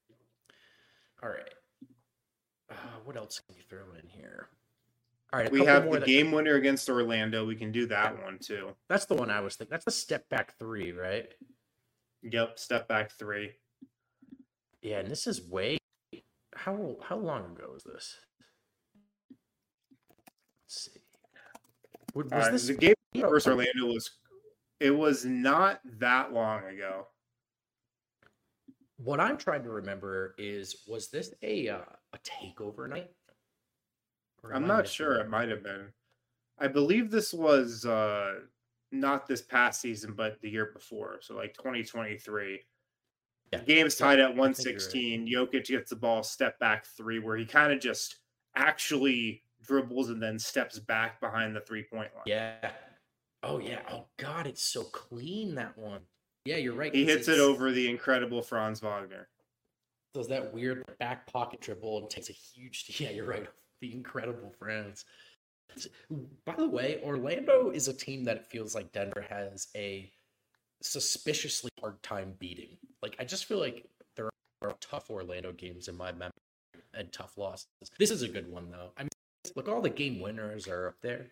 S2: all right. Uh, what else can you throw in here? All right,
S1: we have the game winner against Orlando. We can do that one too.
S2: That's the one I was thinking. That's the step back three, right?
S1: Yep, step back three.
S2: Yeah, and this is way how how long ago was this? Let's see. Was
S1: uh,
S2: this
S1: the game versus Orlando was it was not that long ago.
S2: What I'm trying to remember is was this a uh, a takeover night?
S1: I'm not sure. It might have been. I believe this was uh, not this past season, but the year before. So like twenty twenty-three. Yeah. The game's tied at one sixteen. Right. Jokic gets the ball, step back three, where he kind of just actually dribbles and then steps back behind the three-point line.
S2: Yeah. Oh, yeah. Oh, God, it's so clean, that one. Yeah, you're right.
S1: He hits it over the incredible Franz Wagner.
S2: Does that weird back pocket dribble and takes a huge... Yeah, you're right. The incredible Franz. By the way, Orlando is a team that it feels like Denver has a suspiciously hard time beating. Like, I just feel like there are tough Orlando games in my memory. and tough losses. This is a good one though. I mean, look, all the game winners are up there.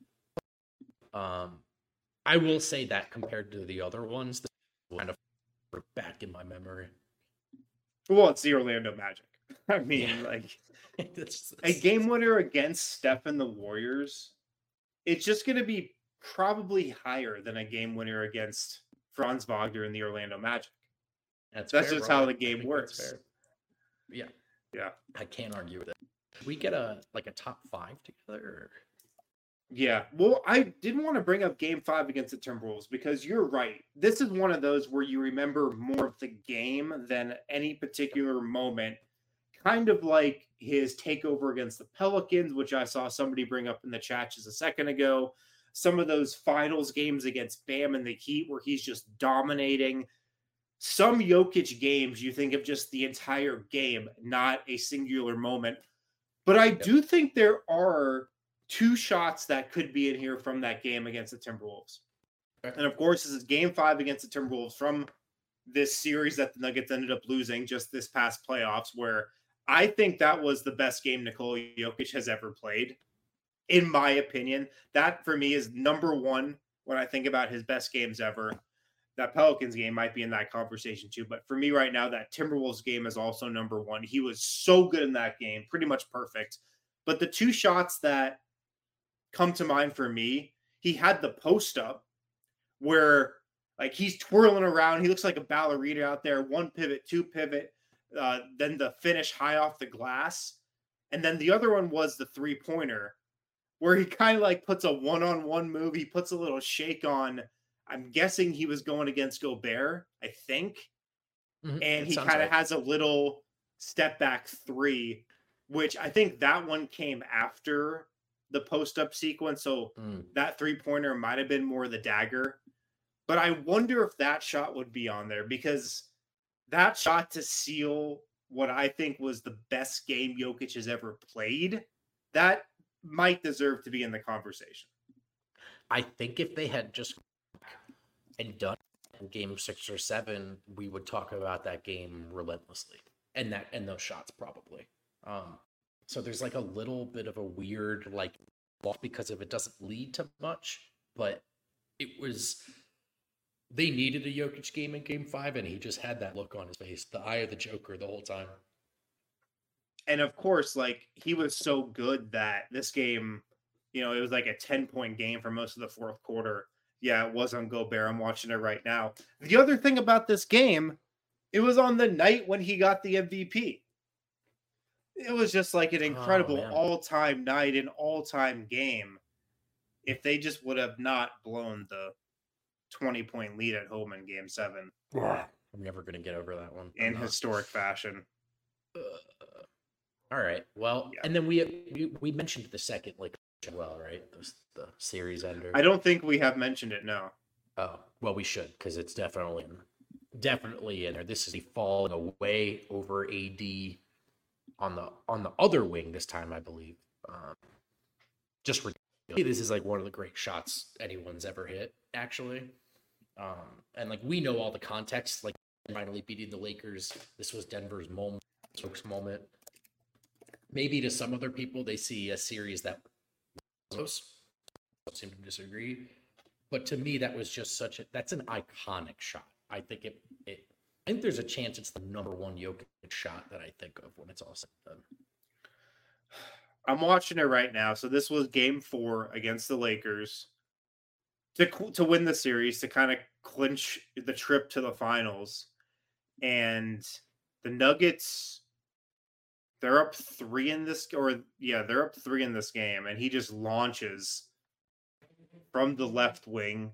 S2: Um, I will say that compared to the other ones, this is kind of back in my memory.
S1: Well, it's the Orlando Magic. I mean,
S2: Yeah.
S1: like
S2: It's-
S1: a
S2: it's-
S1: game winner against Steph and the Warriors, it's just going to be probably higher than a game winner against Franz Wagner and the Orlando Magic.
S2: That's,
S1: That's
S2: fair,
S1: just
S2: bro.
S1: how
S2: I-
S1: the
S2: I
S1: game
S2: think that's
S1: works.
S2: fair. Yeah,
S1: Yeah.
S2: I can't argue with it. We get a like a top five together. Or...
S1: Yeah. Well, I didn't want to bring up game five against the Timberwolves because you're right. This is one of those where you remember more of the game than any particular moment. Kind of like his takeover against the Pelicans, which I saw somebody bring up in the chat just a second ago. Some of those finals games against Bam and the Heat where he's just dominating. Some Jokic games, you think of just the entire game, not a singular moment. But I
S2: Yep.
S1: do think there are two shots that could be in here from that game against the Timberwolves.
S2: Okay.
S1: And of course, this is game five against the Timberwolves from this series that the Nuggets ended up losing just this past playoffs, where I think that was the best game Nikola Jokic has ever played. In my opinion, that for me is number one when I think about his best games ever. That Pelicans game might be in that conversation too. But for me right now, that Timberwolves game is also number one. He was so good in that game, pretty much perfect. But the two shots that come to mind for me, he had the post up where like he's twirling around. He looks like a ballerina out there. One pivot, two pivot, uh, then the finish high off the glass. And then the other one was the three pointer where he kind of like puts a one-on-one move. He puts a little shake on. I'm guessing he was going against Gobert, I think.
S2: Mhm.
S1: And
S2: It
S1: he
S2: sounds
S1: kind of
S2: right.
S1: has a little step back three, which I think that one came after the post-up sequence. So
S2: Mm.
S1: that three-pointer might have been more the dagger. But I wonder if that shot would be on there because that shot to seal what I think was the best game Jokic has ever played, that might deserve to be in the conversation.
S2: I think if they had just and done in game six or seven, we would talk about that game relentlessly and that and those shots probably. Um, so there's like a little bit of a weird like loss because if it doesn't lead to much, but it was they needed a Jokic game in game five, and he just had that look on his face, the eye of the Joker the whole time.
S1: And of course, like he was so good that this game, you know, it was like a ten point game for most of the fourth quarter. Yeah, it was on Gobert. I'm watching it right now. The other thing about this game, it was on the night when he got the M V P. It was just like an incredible
S2: man.
S1: all-time night, an all-time game. If they just would have not blown the twenty point lead at home in game seven
S2: I'm never gonna get over that one.
S1: in
S2: I'm not.
S1: historic fashion.
S2: Uh, all right. Well,
S1: Yeah.
S2: and then we, we we mentioned the second like as well, right? The, the series ender.
S1: I don't think we have mentioned it, no.
S2: Oh, well, we should because it's definitely definitely in there. This is a falling away over A D on the on the other wing this time, I believe. Um, just ridiculous. This is like one of the great shots anyone's ever hit, actually. Um, and like we know all the context, like finally beating the Lakers. This was Denver's moment, Stokes' moment. Maybe to some other people, they see a series that was close. I seem to disagree. But to me, that was just such a that's an iconic shot. I think it it I think there's a chance it's the number one Jokic shot that I think of when it's all said and done.
S1: I'm watching it right now. So this was game four against the Lakers to to win the series, to kind of clinch the trip to the finals. And the Nuggets, they're up three in this, or yeah, they're up three in this game. And he just launches from the left wing.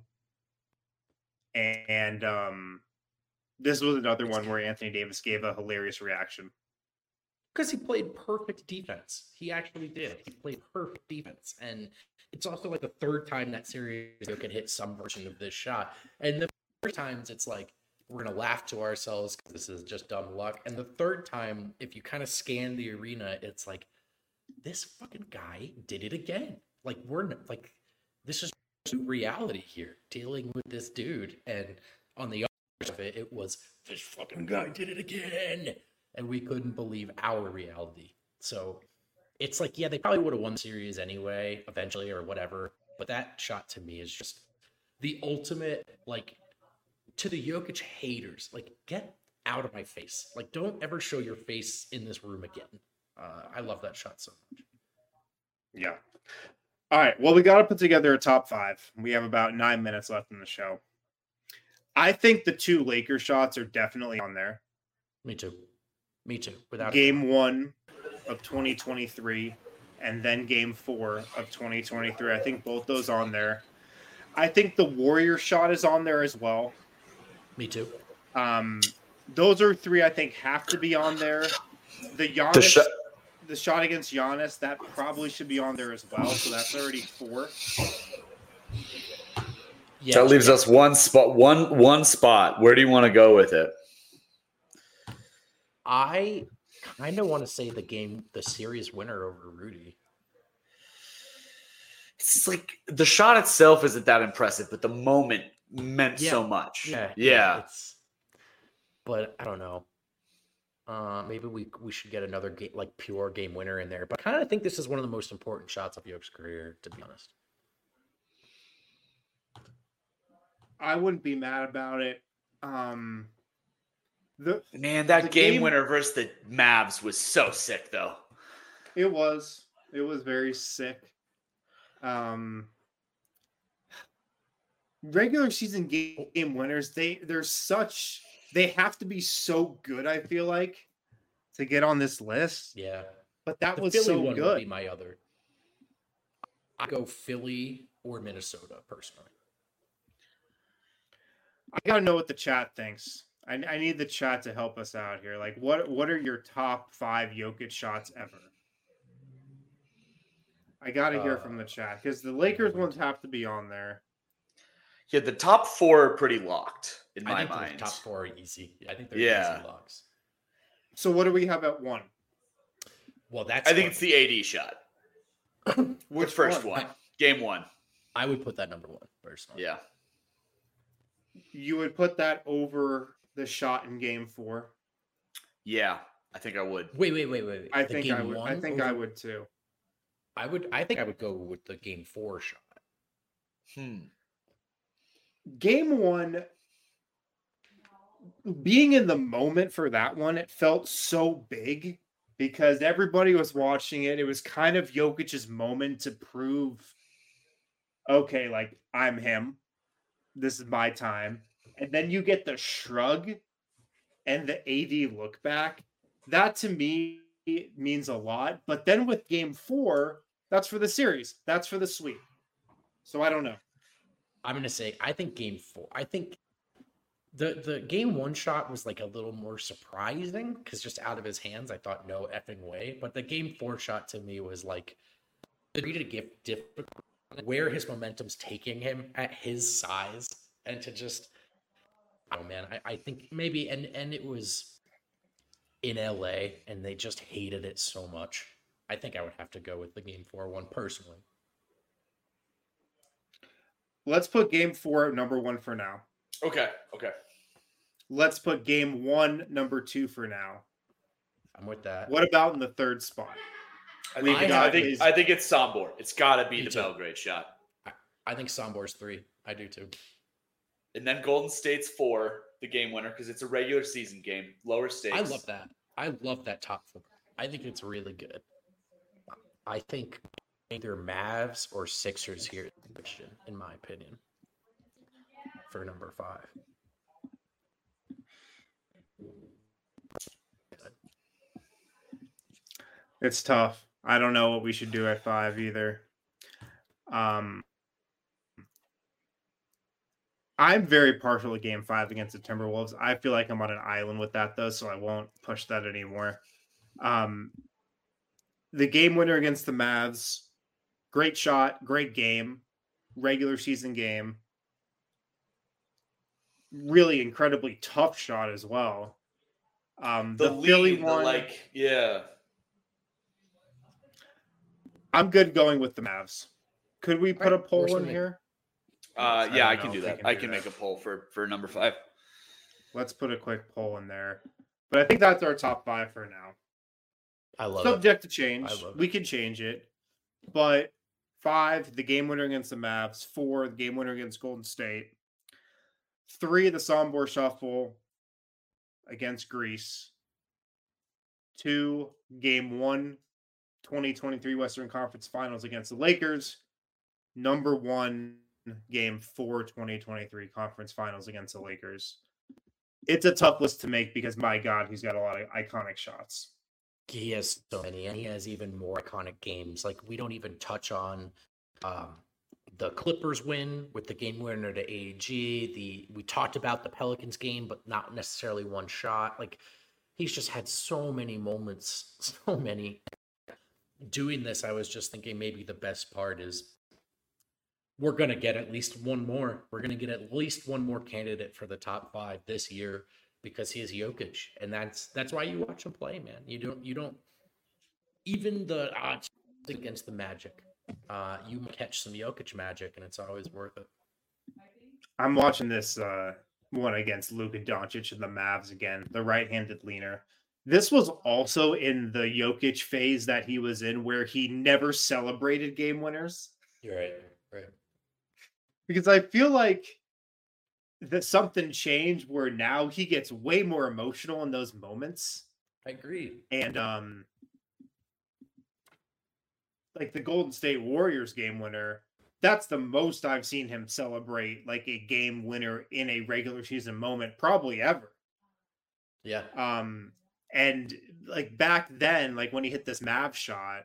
S1: And um, this was another one where Anthony Davis gave a hilarious reaction.
S2: Because he played perfect defense. He actually did. He played perfect defense. And it's also like the third time that series can hit some version of this shot. And the first times it's like, we're going to laugh to ourselves because this is just dumb luck. And the third time, if you kind of scan the arena, it's like, this fucking guy did it again. Like, we're not, like, this is reality here, dealing with this dude. And on the other side of it, it was, this fucking guy did it again. And we couldn't believe our reality So it's like, yeah, they probably would have won the series anyway, eventually or whatever. But that shot to me is just the ultimate, like, to the Jokic haters, like, get out of my face. Like, don't ever show your face in this room again. Uh, I love that shot so much.
S1: Yeah. All right. Well, we got to put together a top five. We have about nine minutes left in the show. I think the two Lakers shots are definitely on there.
S2: Me too. Me too. Without
S1: game one of twenty twenty-three and then game four of twenty twenty-three. I think both those on there. I think the Warrior shot is on there as well.
S2: Me too.
S1: Um, those are three I think have to be on there. The Giannis,
S3: The sh-
S1: the shot against Giannis, that probably should be on there as well. So that's already four.
S2: Yeah,
S3: that leaves us one spot. One one spot. Where do you want to go with it?
S2: I kind of want to say the game, the series winner over Rudy.
S3: It's like the shot itself isn't that impressive, but the moment meant
S2: Yeah.
S3: so much.
S2: Yeah,
S3: Yeah.
S2: It's, but I don't know. Uh, maybe we we should get another game, like pure game winner in there. But I kind of think this is one of the most important shots of Jokic's career, to be honest.
S1: I wouldn't be mad about it. Um, the
S3: Man, that
S1: the
S3: game,
S1: game-
S3: winner versus the Mavs was so sick, though.
S1: It was. It was very sick. Um, regular season game, game winners, they they're such they have to be so good, I feel like, to get on this list.
S2: Yeah,
S1: But that
S2: the
S1: was
S2: Philly
S1: so
S2: one would
S1: good.
S2: be my other. I go Philly or Minnesota personally.
S1: I gotta know what the chat thinks. I, I need the chat to help us out here. Like, what what are your top five Jokic shots ever? I gotta hear
S2: Uh,
S1: from the chat because the Lakers ones have to be on there.
S3: Yeah, the top four are pretty locked in
S2: I
S3: my
S2: think
S3: mind.
S2: the top four are easy. I think they're
S3: Yeah.
S2: easy locks.
S1: So what do we have at one?
S2: Well, that's
S3: I think
S2: fun.
S3: it's the A D shot.
S1: Which
S3: the first
S1: one?
S3: one? Game one.
S2: I would put that number one personally.
S3: Yeah.
S1: You would put that over the shot in game four.
S3: Yeah, I think I would.
S2: Wait, wait, wait, wait. wait.
S1: I
S2: The
S1: think
S2: game
S1: I would. I
S2: one
S1: think I
S2: over-
S1: would too.
S2: I would. I think I would go with the game four shot.
S3: Hmm.
S1: Game one, being in the moment for that one, it felt so big because everybody was watching it. It was kind of Jokic's moment to prove, okay, like I'm him. This is my time. And then you get the shrug and the A D look back. That to me means a lot. But then with game four, that's for the series. That's for the sweep. So I don't know.
S2: I'm gonna say I think game four. I think the the game one shot was like a little more surprising because just out of his hands, I thought no effing way. But the game four shot to me was like the degree to give difficult where his momentum's taking him at his size, and to just oh man, I, I think maybe and and it was in L A and they just hated it so much. I think I would have to go with the game four one personally.
S1: Let's put game four at number one for now.
S3: Okay. Okay.
S1: Let's put game one number two for now.
S2: I'm with that.
S1: What about in the third spot?
S3: I
S1: We've
S3: think,
S1: got
S3: I think,
S1: his-
S3: I think it's Sombor. It's got to be
S2: Me
S3: the
S2: too.
S3: Belgrade shot.
S2: I think Sombor's three. I do too.
S3: And then Golden State's four, the game winner, because it's a regular season game, lower stakes.
S2: I love that. I love that top four. I think it's really good. I think either Mavs or Sixers here, in my opinion, for number five.
S1: It's tough. I don't know what we should do at five either. Um, I'm very partial to game five against the Timberwolves. I feel like I'm on an island with that, though, so I won't push that anymore. Um, the game winner against the Mavs, great shot, great game, regular season game. Really incredibly tough shot as well. Um,
S3: The,
S1: the,
S3: lead,
S1: Philly
S3: the
S1: one,
S3: like, yeah.
S1: I'm good going with the Mavs. Could we put
S2: Right,
S1: a poll
S2: where's
S1: in
S2: the-
S1: here?
S3: Uh,
S1: I
S3: yeah, I
S1: don't
S3: can
S1: know
S3: do
S1: if we
S3: that.
S1: can
S3: I
S1: do
S3: can
S1: that.
S3: make a poll for, for number five.
S1: Let's put a quick poll in there. But I think that's our top five for now.
S2: I love
S1: Subject
S2: it.
S1: to change.
S2: I love
S1: We
S2: it.
S1: can change it. But five, the game winner against the Mavs. Four, the game winner against Golden State. Three, the Sombor Shuffle against Greece. Two, game one, twenty twenty-three Western Conference Finals against the Lakers. Number one, game four, twenty twenty-three Conference Finals against the Lakers. It's a tough list to make because, my God, he's got a lot of iconic shots.
S2: He has so many, and he has even more iconic games. Like, we don't even touch on um, the Clippers win with the game winner to A G. The we talked about the Pelicans game, but not necessarily one shot. Like, he's just had so many moments, so many. Doing this, I was just thinking maybe the best part is we're going to get at least one more. We're going to get at least one more candidate for the top five this year because he is Jokic. And that's that's why you watch him play, man. You don't, you don't, even the odds against the Magic, uh, you catch some Jokic magic and it's always worth it.
S1: I'm watching this uh, one against Luka Doncic and the Mavs again, the right-handed leaner. This was also in the Jokic phase that he was in where he never celebrated game winners.
S2: You're right, right.
S1: Because I feel like that something changed where now he gets way more emotional in those moments.
S2: I agree.
S1: And um, like the Golden State Warriors game winner, that's the most I've seen him celebrate like a game winner in a regular season moment, probably ever.
S2: Yeah.
S1: Um, and like back then, like when he hit this Mav shot,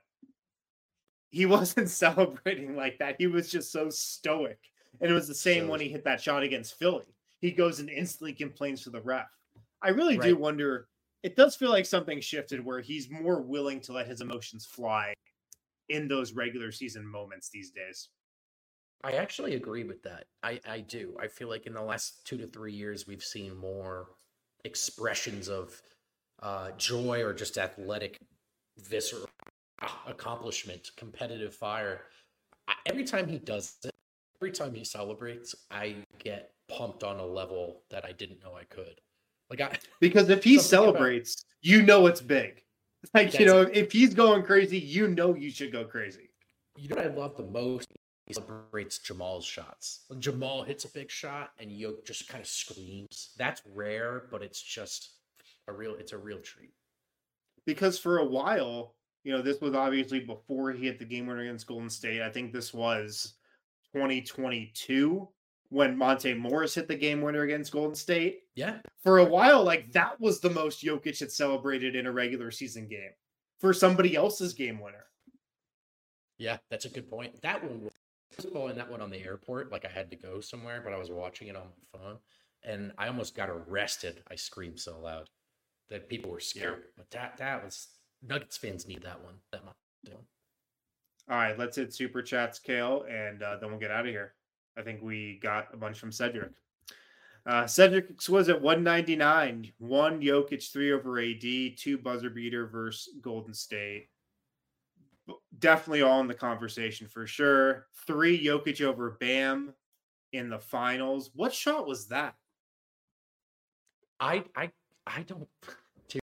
S1: he wasn't celebrating like that. He was just so stoic. And it was the same
S2: So-
S1: when he hit that shot against Philly. He goes and instantly complains to the ref. I really do
S2: Right.
S1: wonder, it does feel like something shifted where he's more willing to let his emotions fly in those regular season moments these days.
S2: I actually agree with that. I, I do. I feel like in the last two to three years, we've seen more expressions of uh, joy or just athletic, visceral accomplishment, competitive fire. I, every time he does it, every time he celebrates, I get pumped on a level that I didn't know I could. Like I,
S1: Because if he
S2: Something about-
S1: celebrates, you know it's big. Like, you
S2: That's
S1: know, if he's going crazy, you know you should go crazy.
S2: you know what I love the most? He celebrates Jamal's shots. When Jamal hits a big shot and Yoke just kind of screams. That's rare, but it's just a real. It's a real treat.
S1: Because for a while, you know, this was obviously before he hit the game winner against Golden State. I think this was twenty twenty-two when Monte Morris hit the game winner against Golden State.
S2: Yeah,
S1: For a while, like that was the most Jokic had celebrated in a regular season game for somebody else's game winner.
S2: yeah, that's a good point. That one was I was following that one on the airport. Like I had to go somewhere, but I was watching it on my phone, and I almost got arrested. I screamed so loud that people were scared. But that that was Nuggets fans need that one. That much.
S1: All right, let's hit super chats, Kale, and uh, then we'll get out of here. I think we got a bunch from Cedric. Uh, Cedric was at one ninety-nine. One Jokic, three over A D, two buzzer beater versus Golden State. Definitely all in the conversation for sure. Three Jokic over Bam in the finals. What shot was that?
S2: I I I don't